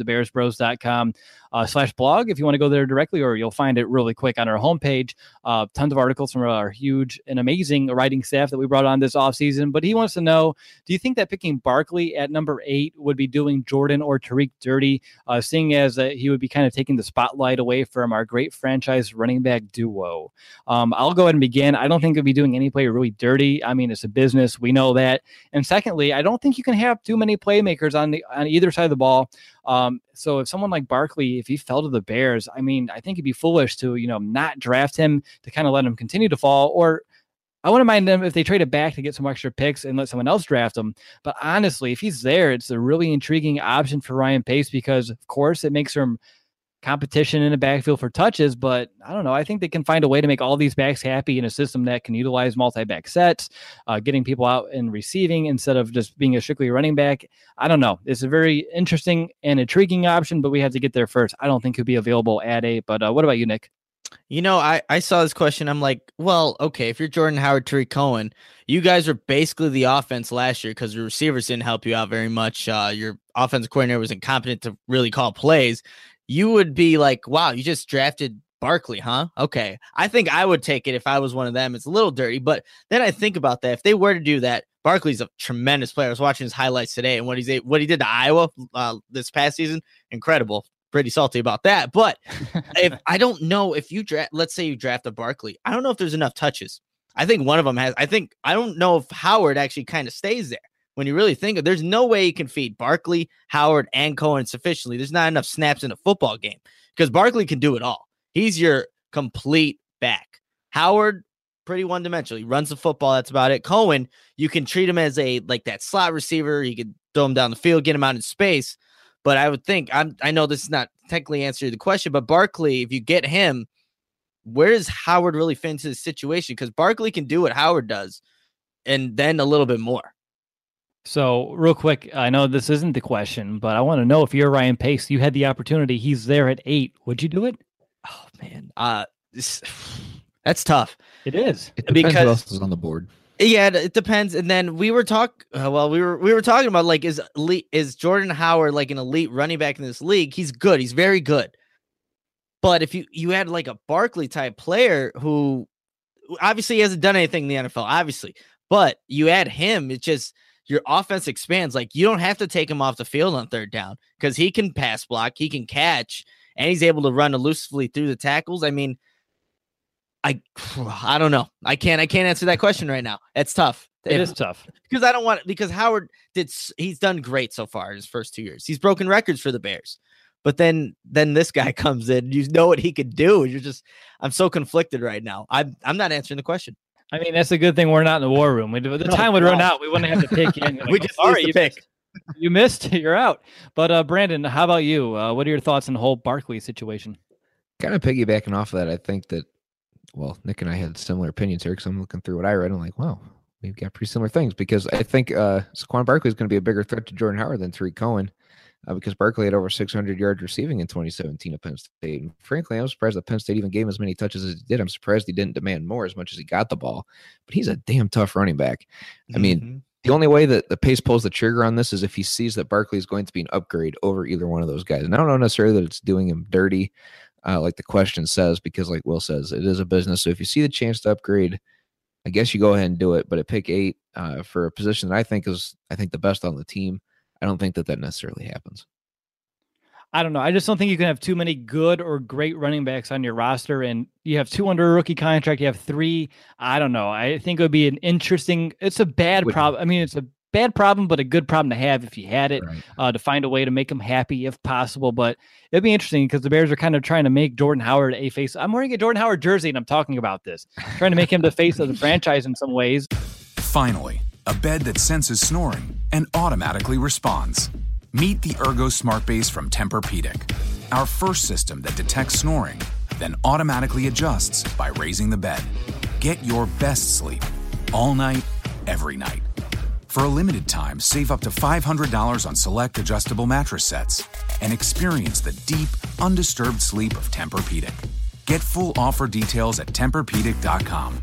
thebearsbros.com/blog if you want to go there directly, or you'll find it really quick on our homepage. Tons of articles from our huge and amazing writing staff that we brought on this offseason. But he wants to know, do you think that picking Barkley at number 8 would be doing Jordan or Tariq dirty, seeing as he would be kind of taking the spotlight away from our great franchise running back duo? I'll go ahead and begin. I don't think it'd be doing any player really dirty. I mean, it's a business. We know that. And secondly, I don't think you can have too many playmakers on either side of the ball. So if someone like Barkley, if he fell to the Bears, I mean, I think it'd be foolish to, not draft him, to kind of let him continue to fall, or I wouldn't mind them if they trade it back to get some extra picks and let someone else draft him. But honestly, if he's there, it's a really intriguing option for Ryan Pace because, of course, it makes him competition in the backfield for touches. But I don't know. I think they can find a way to make all these backs happy in a system that can utilize multi-back sets, getting people out and receiving instead of just being a strictly running back. I don't know. It's a very interesting and intriguing option, but we have to get there first. I don't think he'll be available at 8. But what about you, Nick? I saw this question. I'm like, well, okay, if you're Jordan Howard, Tariq Cohen, you guys were basically the offense last year because the receivers didn't help you out very much. Your offensive coordinator was incompetent to really call plays. You would be like, wow, you just drafted Barkley, huh? Okay. I think I would take it if I was one of them. It's a little dirty, but then I think about that. If they were to do that, Barkley's a tremendous player. I was watching his highlights today, and what he did to Iowa this past season, incredible. Pretty salty about that. But if I don't know if let's say you draft a Barkley, I don't know if there's enough touches. I think one of them has. I don't know if Howard actually kind of stays there. When you really think of, there's no way you can feed Barkley, Howard, and Cohen sufficiently. There's not enough snaps in a football game because Barkley can do it all. He's your complete back. Howard, pretty one-dimensional. He runs the football. That's about it. Cohen, you can treat him as that slot receiver. You can throw him down the field, get him out in space. But I would think, I know this is not technically answering the question, but Barkley, if you get him, where does Howard really fit into the situation? Because Barkley can do what Howard does, and then a little bit more. So, real quick, I know this isn't the question, but I want to know if you're Ryan Pace, you had the opportunity. He's there at 8. Would you do it? Oh man, that's tough. It is. It depends Because- who else is on the board. Yeah, it depends. And then we were talking about like is Jordan Howard like an elite running back in this league? He's good. He's very good. But if you had like a Barkley type player who obviously he hasn't done anything in the NFL, obviously, but you add him, it just your offense expands. Like you don't have to take him off the field on third down because he can pass block, he can catch, and he's able to run elusively through the tackles. I mean, I don't know. I can't answer that question right now. It's tough. It is tough. Because I don't want because Howard he's done great so far in his first 2 years. He's broken records for the Bears. But then this guy comes in, you know what he could do. I'm so conflicted right now. I'm not answering the question. I mean, that's a good thing we're not in the war room. The time would run out. We wouldn't have to pick you. Like, We just sorry, lose the pick. You missed. You're out. But Brandon, how about you? What are your thoughts on the whole Barkley situation? Kind of piggybacking off of that, I think that, well, Nick and I had similar opinions here because I'm looking through what I read and I'm like, wow, we've got pretty similar things because I think Saquon Barkley is going to be a bigger threat to Jordan Howard than Tariq Cohen because Barkley had over 600 yards receiving in 2017 at Penn State. And frankly, I was surprised that Penn State even gave him as many touches as he did. I'm surprised he didn't demand more as much as he got the ball, but he's a damn tough running back. I mean, the only way that the Pace pulls the trigger on this is if he sees that Barkley is going to be an upgrade over either one of those guys. And I don't know necessarily that it's doing him dirty, like the question says, because like Will says, it is a business. So if you see the chance to upgrade, I guess you go ahead and do it. But at pick 8 for a position that I think the best on the team, I don't think that necessarily happens. I don't know. I just don't think you can have too many good or great running backs on your roster. And you have 2 under a rookie contract. You have 3. I don't know. I think it would be it's a bad problem. I mean, it's a bad problem, but a good problem to have if you had it, to find a way to make him happy if possible. But it'd be interesting because the Bears are kind of trying to make Jordan Howard a face. I'm wearing a Jordan Howard jersey and I'm talking about this, trying to make him the face of the franchise in some ways. Finally, a bed that senses snoring and automatically responds. Meet the Ergo Smart Base from Tempur-Pedic, our first system that detects snoring, then automatically adjusts by raising the bed. Get your best sleep all night, every night. For a limited time, save up to $500 on select adjustable mattress sets and experience the deep, undisturbed sleep of Tempur-Pedic. Get full offer details at TempurPedic.com.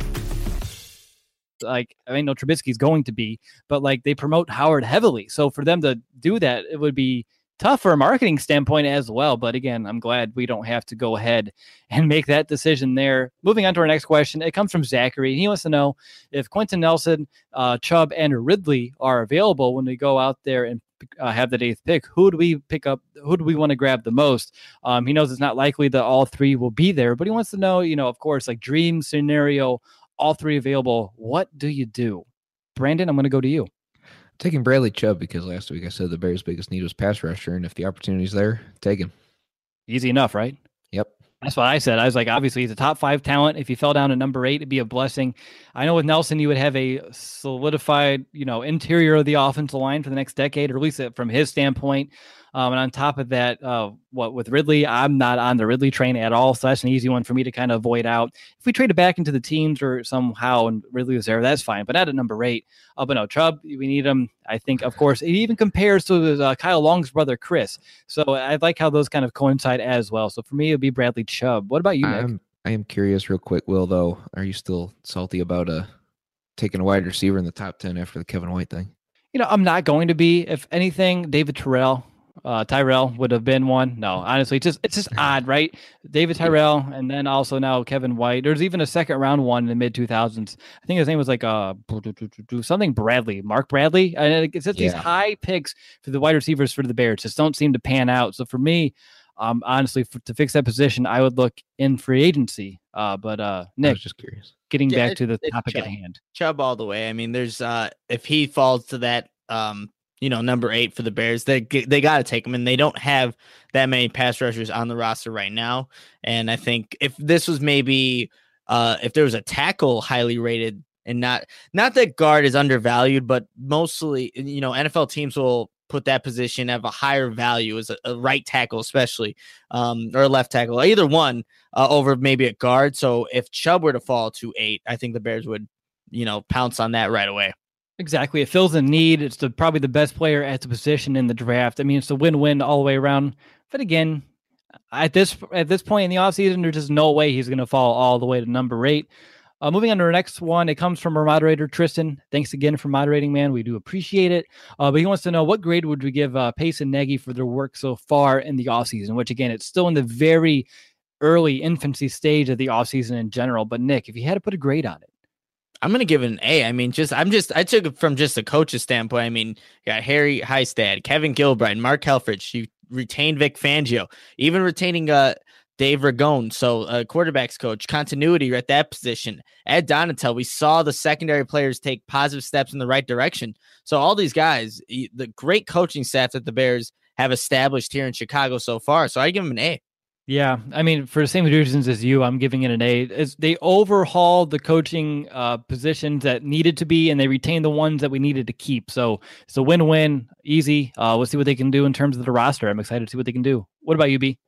Like, I mean, no, Trubisky's going to be, but like they promote Howard heavily. So for them to do that, it would be tough for a marketing standpoint as well. But again, I'm glad we don't have to go ahead and make that decision there. Moving on to our next question. It comes from Zachary. He wants to know if Quentin Nelson, Chubb, and Ridley are available when we go out there and have the 8th pick. Who do we pick up? Who do we want to grab the most? He knows it's not likely that all 3 will be there, but he wants to know, of course, like dream scenario, all 3 available. What do you do? Brandon, I'm going to go to you. Taking Bradley Chubb because last week I said the Bears' biggest need was pass rusher, and if the opportunity's there, take him. Easy enough, right? Yep. That's what I said. I was like, obviously, he's a top 5 talent. If he fell down to number 8, it'd be a blessing. I know with Nelson, you would have a solidified, interior of the offensive line for the next decade, or at least from his standpoint. And on top of that, with Ridley, I'm not on the Ridley train at all. So that's an easy one for me to kind of avoid out. If we trade it back into the teams or somehow and Ridley was there, that's fine. But not at number 8. But no, Chubb, we need him. I think, of course, it even compares to Kyle Long's brother, Chris. So I like how those kind of coincide as well. So for me, it would be Bradley Chubb. What about you, Nick? I am curious real quick, Will, though. Are you still salty about taking a wide receiver in the top 10 after the Kevin White thing? I'm not going to be. If anything, David Tyrell would have been one. No, honestly, it's just odd, right? David Tyrell, and then also now Kevin White. There's even a second round one in the mid 2000s. I think his name was like something Bradley, Mark Bradley. And it's just these high picks for the wide receivers for the Bears just don't seem to pan out. So for me, honestly, to fix that position, I would look in free agency. But Nick, I was just curious. Getting back to the topic Chubb. at hand. Chubb all the way. I mean, there's if he falls to that number 8 for the Bears, they got to take him, and they don't have that many pass rushers on the roster right now. And I think if this was maybe if there was a tackle highly rated, and not that guard is undervalued, but mostly NFL teams will put that position at a higher value as a right tackle, especially or a left tackle, either one over maybe a guard. So if Chubb were to fall to 8, I think the Bears would pounce on that right away. Exactly. It fills a need. It's probably the best player at the position in the draft. I mean, it's a win-win all the way around. But again, at this point in the offseason, there's just no way he's going to fall all the way to number 8. Moving on to our next one, it comes from our moderator, Tristan. Thanks again for moderating, man. We do appreciate it. But he wants to know, what grade would we give Pace and Nagy for their work so far in the offseason, which, again, it's still in the very early infancy stage of the offseason in general. But, Nick, if you had to put a grade on it. I'm going to give it an A. I mean, I took it from just a coach's standpoint. I mean, you got Harry Heistad, Kevin Gilbride, Mark Helfrich. You retained Vic Fangio, even retaining Dave Ragone. So quarterbacks coach, continuity at that position. Ed Donatel, we saw the secondary players take positive steps in the right direction. So all these guys, the great coaching staff that the Bears have established here in Chicago so far. So I give them an A. Yeah, I mean, for the same reasons as you, I'm giving it an A. They overhauled the coaching positions that needed to be, and they retained the ones that we needed to keep. So it's a win-win, easy. We'll see what they can do in terms of the roster. I'm excited to see what they can do. What about you, B?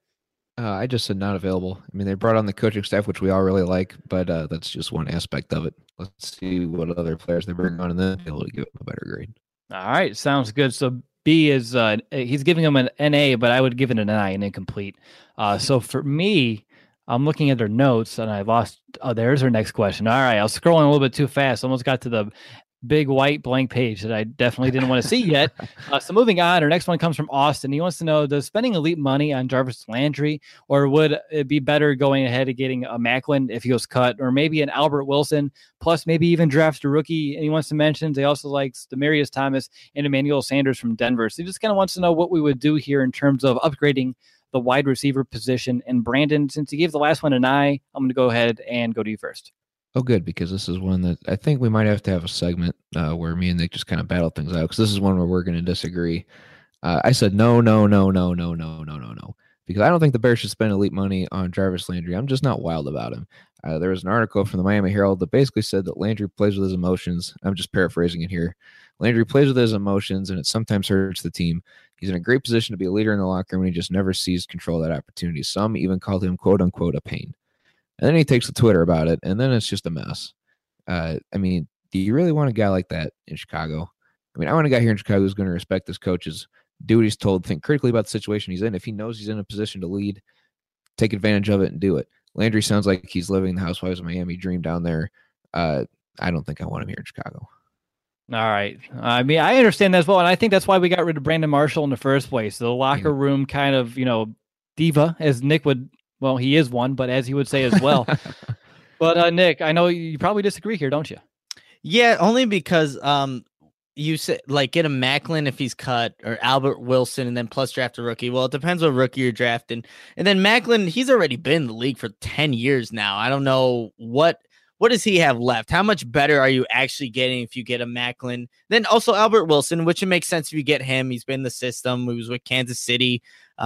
I just said not available. I mean, they brought on the coaching staff, which we all really like, but that's just one aspect of it. Let's see what other players they bring on, and then be able to give them a better grade. All right, sounds good. So B is he's giving them an NA, but I would give it an I, an incomplete. So for me, I'm looking at their notes and I lost. Oh, there's our next question. All right, I was scrolling a little bit too fast. Almost got to the big white blank page that I definitely didn't want to see yet. So moving on, our next one comes from Austin. He wants to know, does spending elite money on Jarvis Landry, or would it be better going ahead and getting a Macklin if he was cut, or maybe an Albert Wilson, plus maybe even draft a rookie? And he wants to mention they also likes Demaryius Thomas and Emmanuel Sanders from Denver. So he just kind of wants to know what we would do here in terms of upgrading the wide receiver position. And Brandon, since he gave the last one an I, I'm going to go ahead and go to you first. Oh, good, because this is one that I think we might have to have a segment where me and Nick just kind of battle things out, because this is one where we're going to disagree. I said no, because I don't think the Bears should spend elite money on Jarvis Landry. I'm just not wild about him. There was an article from the Miami Herald that basically said that Landry plays with his emotions. I'm just paraphrasing it here. Landry plays with his emotions, and it sometimes hurts the team. He's in a great position to be a leader in the locker room, and he just never sees control of that opportunity. Some even called him, quote unquote, a pain. And then he takes to Twitter about it, and then it's just a mess. I mean, do you really want a guy like that in Chicago? I mean, I want a guy here in Chicago who's going to respect his coaches, do what he's told, think critically about the situation he's in. If he knows he's in a position to lead, take advantage of it and do it. Landry sounds like he's living the Housewives of Miami dream down there. I don't think I want him here in Chicago. All right. I mean, I understand that as well, and I think that's why we got rid of Brandon Marshall in the first place. The locker room kind of, diva, as Nick would. Well, he is one, but as he would say as well. But Nick, I know you probably disagree here, don't you? Yeah, only because you said get a Macklin if he's cut, or Albert Wilson, and then plus draft a rookie. Well, it depends what rookie you're drafting. And then Macklin, he's already been in the league for 10 years now. I don't know what does he have left? How much better are you actually getting if you get a Macklin? Then also Albert Wilson, which it makes sense if you get him. He's been in the system. He was with Kansas City.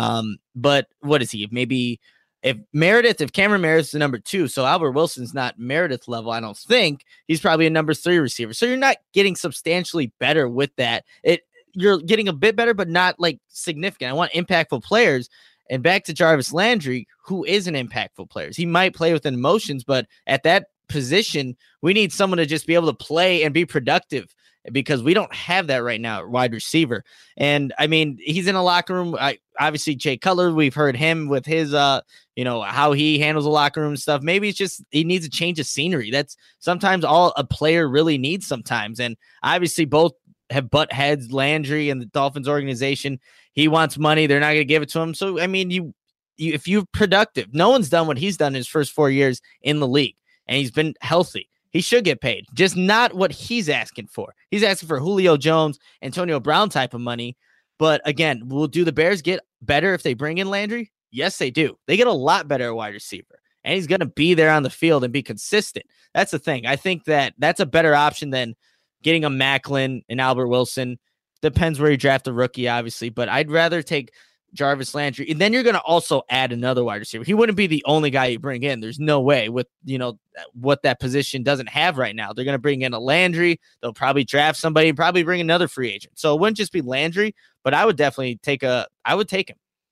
But what is he? Maybe if Cameron Meredith is the number 2, so Albert Wilson's not Meredith level, I don't think. He's probably a number 3 receiver. So you're not getting substantially better with that. You're getting a bit better, but not significant. I want impactful players. And back to Jarvis Landry, who is an impactful player. He might play with emotions, but at that position, we need someone to just be able to play and be productive, because we don't have that right now at wide receiver. And I mean, he's in a locker room. Obviously Jay Cutler, we've heard him with his, how he handles the locker room stuff. Maybe it's just, he needs a change of scenery. That's sometimes all a player really needs sometimes. And obviously both have butt heads, Landry and the Dolphins organization. He wants money. They're not going to give it to him. So, I mean, if you're productive, no one's done what he's done in his first 4 years in the league, and he's been healthy. He should get paid, just not what he's asking for. He's asking for Julio Jones, Antonio Brown type of money. But again, do the Bears get better if they bring in Landry? Yes, they do. They get a lot better at wide receiver, and he's going to be there on the field and be consistent. That's the thing. I think that's a better option than getting a Macklin and Albert Wilson. Depends where you draft a rookie, obviously, but I'd rather take Jarvis Landry. And then you're going to also add another wide receiver. He wouldn't be the only guy you bring in. There's no way with, what that position doesn't have right now. They're going to bring in a Landry. They'll probably draft somebody, probably bring another free agent. So it wouldn't just be Landry, but I would definitely take him.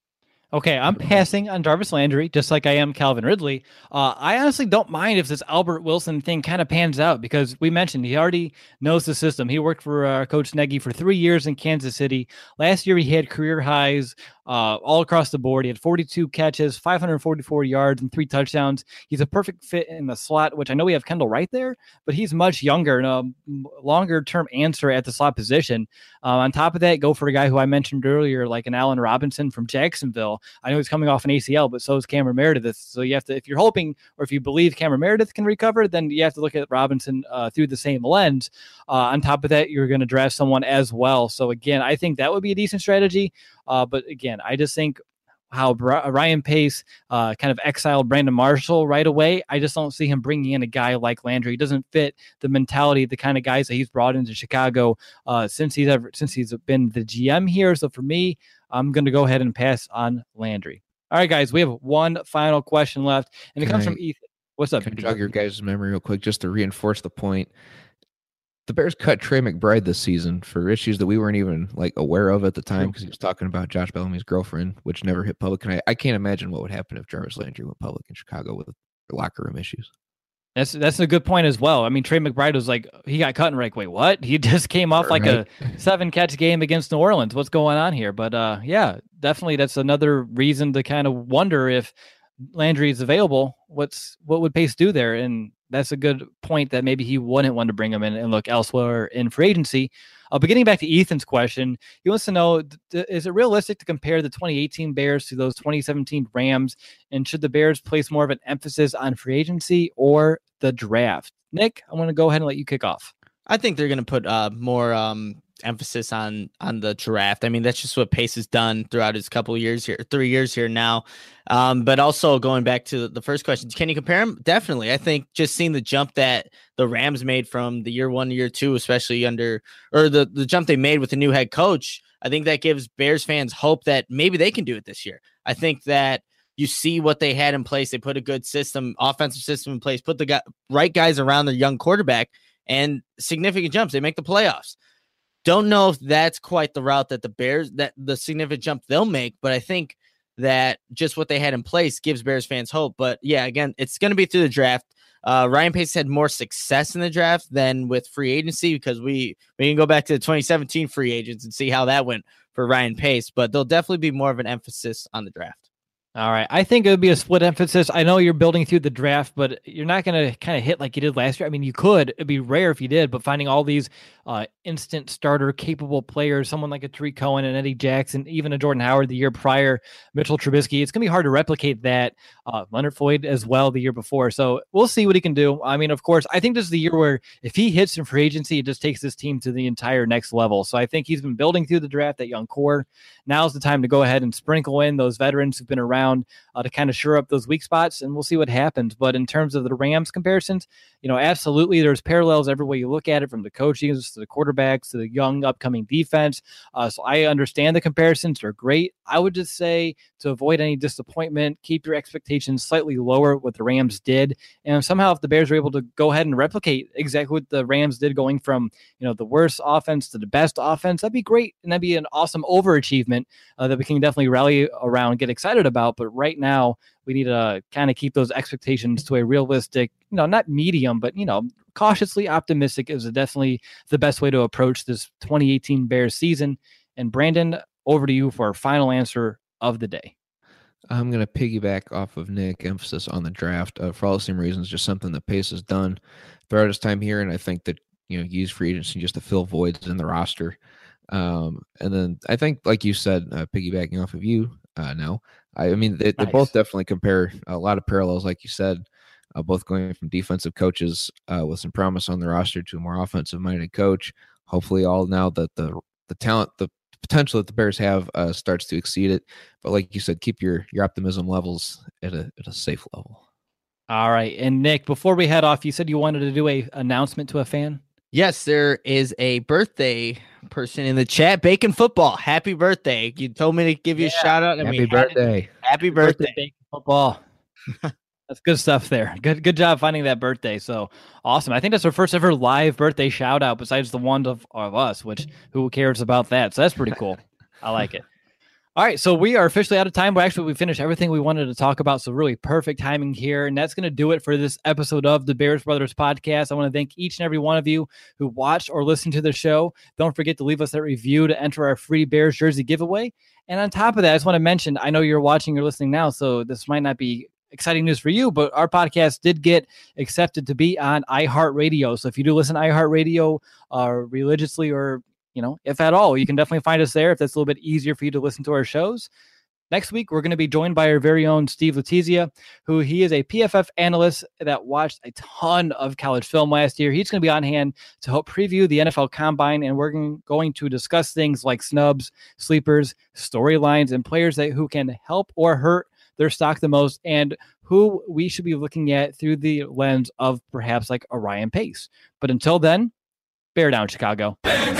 Okay, I'm passing on Jarvis Landry, just like I am Calvin Ridley. I honestly don't mind if this Albert Wilson thing kind of pans out because we mentioned he already knows the system. He worked for Coach Nagy for 3 years in Kansas City. Last year, he had career highs all across the board. He had 42 catches, 544 yards, and 3 touchdowns. He's a perfect fit in the slot, which I know we have Kendall Wright there, but he's much younger and a longer-term answer at the slot position. On top of that, go for a guy who I mentioned earlier, like an Allen Robinson from Jacksonville. I know he's coming off an ACL, but so is Cameron Meredith. So you have to, if you're hoping or if you believe Cameron Meredith can recover, then you have to look at Robinson through the same lens. On top of that, you're going to draft someone as well. So again, I think that would be a decent strategy. But again, I just think how Ryan Pace kind of exiled Brandon Marshall right away. I just don't see him bringing in a guy like Landry. He doesn't fit the mentality, the kind of guys that he's brought into Chicago since he's been the GM here. So for me, I'm going to go ahead and pass on Landry. All right, guys, we have one final question left, and it comes from Ethan. What's up? Can I jog your guys' memory real quick just to reinforce the point? The Bears cut Trey McBride this season for issues that we weren't even aware of at the time because he was talking about Josh Bellamy's girlfriend, which never hit public. And I can't imagine what would happen if Jarvis Landry went public in Chicago with locker room issues. That's a good point as well. I mean, Trey McBride was he got cut and we're like, wait, what? He just came off a 7-catch game against New Orleans. What's going on here? But yeah, definitely that's another reason to kind of wonder if Landry is available. What would Pace do there? And that's a good point that maybe he wouldn't want to bring him in and look elsewhere in free agency. But getting back to Ethan's question, he wants to know, is it realistic to compare the 2018 Bears to those 2017 Rams? And should the Bears place more of an emphasis on free agency or the draft? Nick, I'm going to go ahead and let you kick off. I think they're going to put more emphasis on the draft. I mean, that's just what Pace has done throughout his couple of years here, 3 years here now. But also going back to the first question, can you compare them? Definitely. I think just seeing the jump that the Rams made from the year 1 to year 2, especially the jump they made with the new head coach, I think that gives Bears fans hope that maybe they can do it this year. I think that you see what they had in place. They put a good offensive system in place, put the right guys around their young quarterback, and significant jumps. They make the playoffs. Don't know if that's quite the route that the significant jump they'll make, but I think that just what they had in place gives Bears fans hope. But yeah, again, it's going to be through the draft. Ryan Pace had more success in the draft than with free agency because we can go back to the 2017 free agents and see how that went for Ryan Pace, but there'll definitely be more of an emphasis on the draft. All right. I think it would be a split emphasis. I know you're building through the draft, but you're not going to kind of hit like you did last year. I mean, you could. It'd be rare if you did, but finding all these instant starter capable players, someone like a Tariq Cohen and Eddie Jackson, even a Jordan Howard the year prior, Mitchell Trubisky, it's going to be hard to replicate that. Leonard Floyd as well the year before. So we'll see what he can do. I mean, of course, I think this is the year where if he hits in free agency, it just takes this team to the entire next level. So I think he's been building through the draft, that young core. Now's the time to go ahead and sprinkle in those veterans who've been around to kind of shore up those weak spots, and we'll see what happens. But in terms of the Rams comparisons, absolutely there's parallels every way you look at it, from the coaching to the quarterbacks to the young upcoming defense. So I understand the comparisons are great. I would just say to avoid any disappointment, keep your expectations slightly lower, what the Rams did. And somehow if the Bears are able to go ahead and replicate exactly what the Rams did, going from, the worst offense to the best offense, that'd be great. And that'd be an awesome overachievement that we can definitely rally around, get excited about. But right now we need to kind of keep those expectations to a realistic, not medium, but, cautiously optimistic is definitely the best way to approach this 2018 Bears season. And Brandon, over to you for our final answer of the day. I'm going to piggyback off of Nick, emphasis on the draft for all the same reasons, just something that Pace has done throughout his time here. And I think that, use free agency just to fill voids in the roster. And then I think, like you said, piggybacking off of you now, I mean, they both definitely compare a lot of parallels, like you said, both going from defensive coaches with some promise on the roster to a more offensive-minded coach. Hopefully all now that the talent, the potential that the Bears have starts to exceed it. But like you said, keep your optimism levels at a safe level. All right. And Nick, before we head off, you said you wanted to do a announcement to a fan. Yes, there is a birthday person in the chat. Bacon Football, happy birthday. You told me to give you a shout out. Happy birthday. Happy birthday, Bacon Football. That's good stuff there. Good job finding that birthday. So awesome. I think that's our first ever live birthday shout out besides the one of us, which who cares about that? So that's pretty cool. I like it. All right, so we are officially out of time, but actually we finished everything we wanted to talk about, so really perfect timing here, and that's going to do it for this episode of the Bears Brothers Podcast. I want to thank each and every one of you who watched or listened to the show. Don't forget to leave us that review to enter our free Bears jersey giveaway. And on top of that, I just want to mention, I know you're watching or listening now, so this might not be exciting news for you, but our podcast did get accepted to be on iHeartRadio. So if you do listen to iHeartRadio religiously or if at all, you can definitely find us there if that's a little bit easier for you to listen to our shows. Next week, we're going to be joined by our very own Steve Letizia, who he is a PFF analyst that watched a ton of college film last year. He's going to be on hand to help preview the NFL Combine, and we're going to discuss things like snubs, sleepers, storylines, and players who can help or hurt their stock the most, and who we should be looking at through the lens of perhaps like a Ryan Pace. But until then, bear down, Chicago.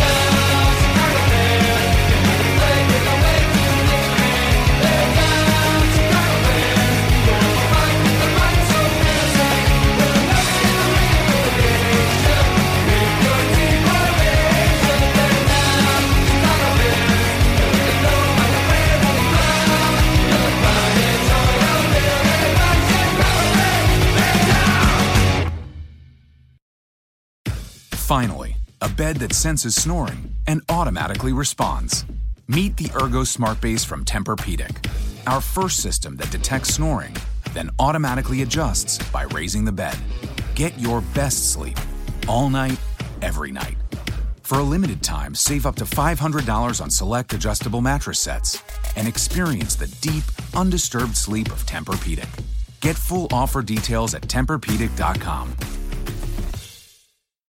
Finally, a bed that senses snoring and automatically responds. Meet the Ergo Smart Base from Tempur-Pedic, our first system that detects snoring, then automatically adjusts by raising the bed. Get your best sleep all night, every night. For a limited time, save up to $500 on select adjustable mattress sets and experience the deep, undisturbed sleep of Tempur-Pedic. Get full offer details at TempurPedic.com.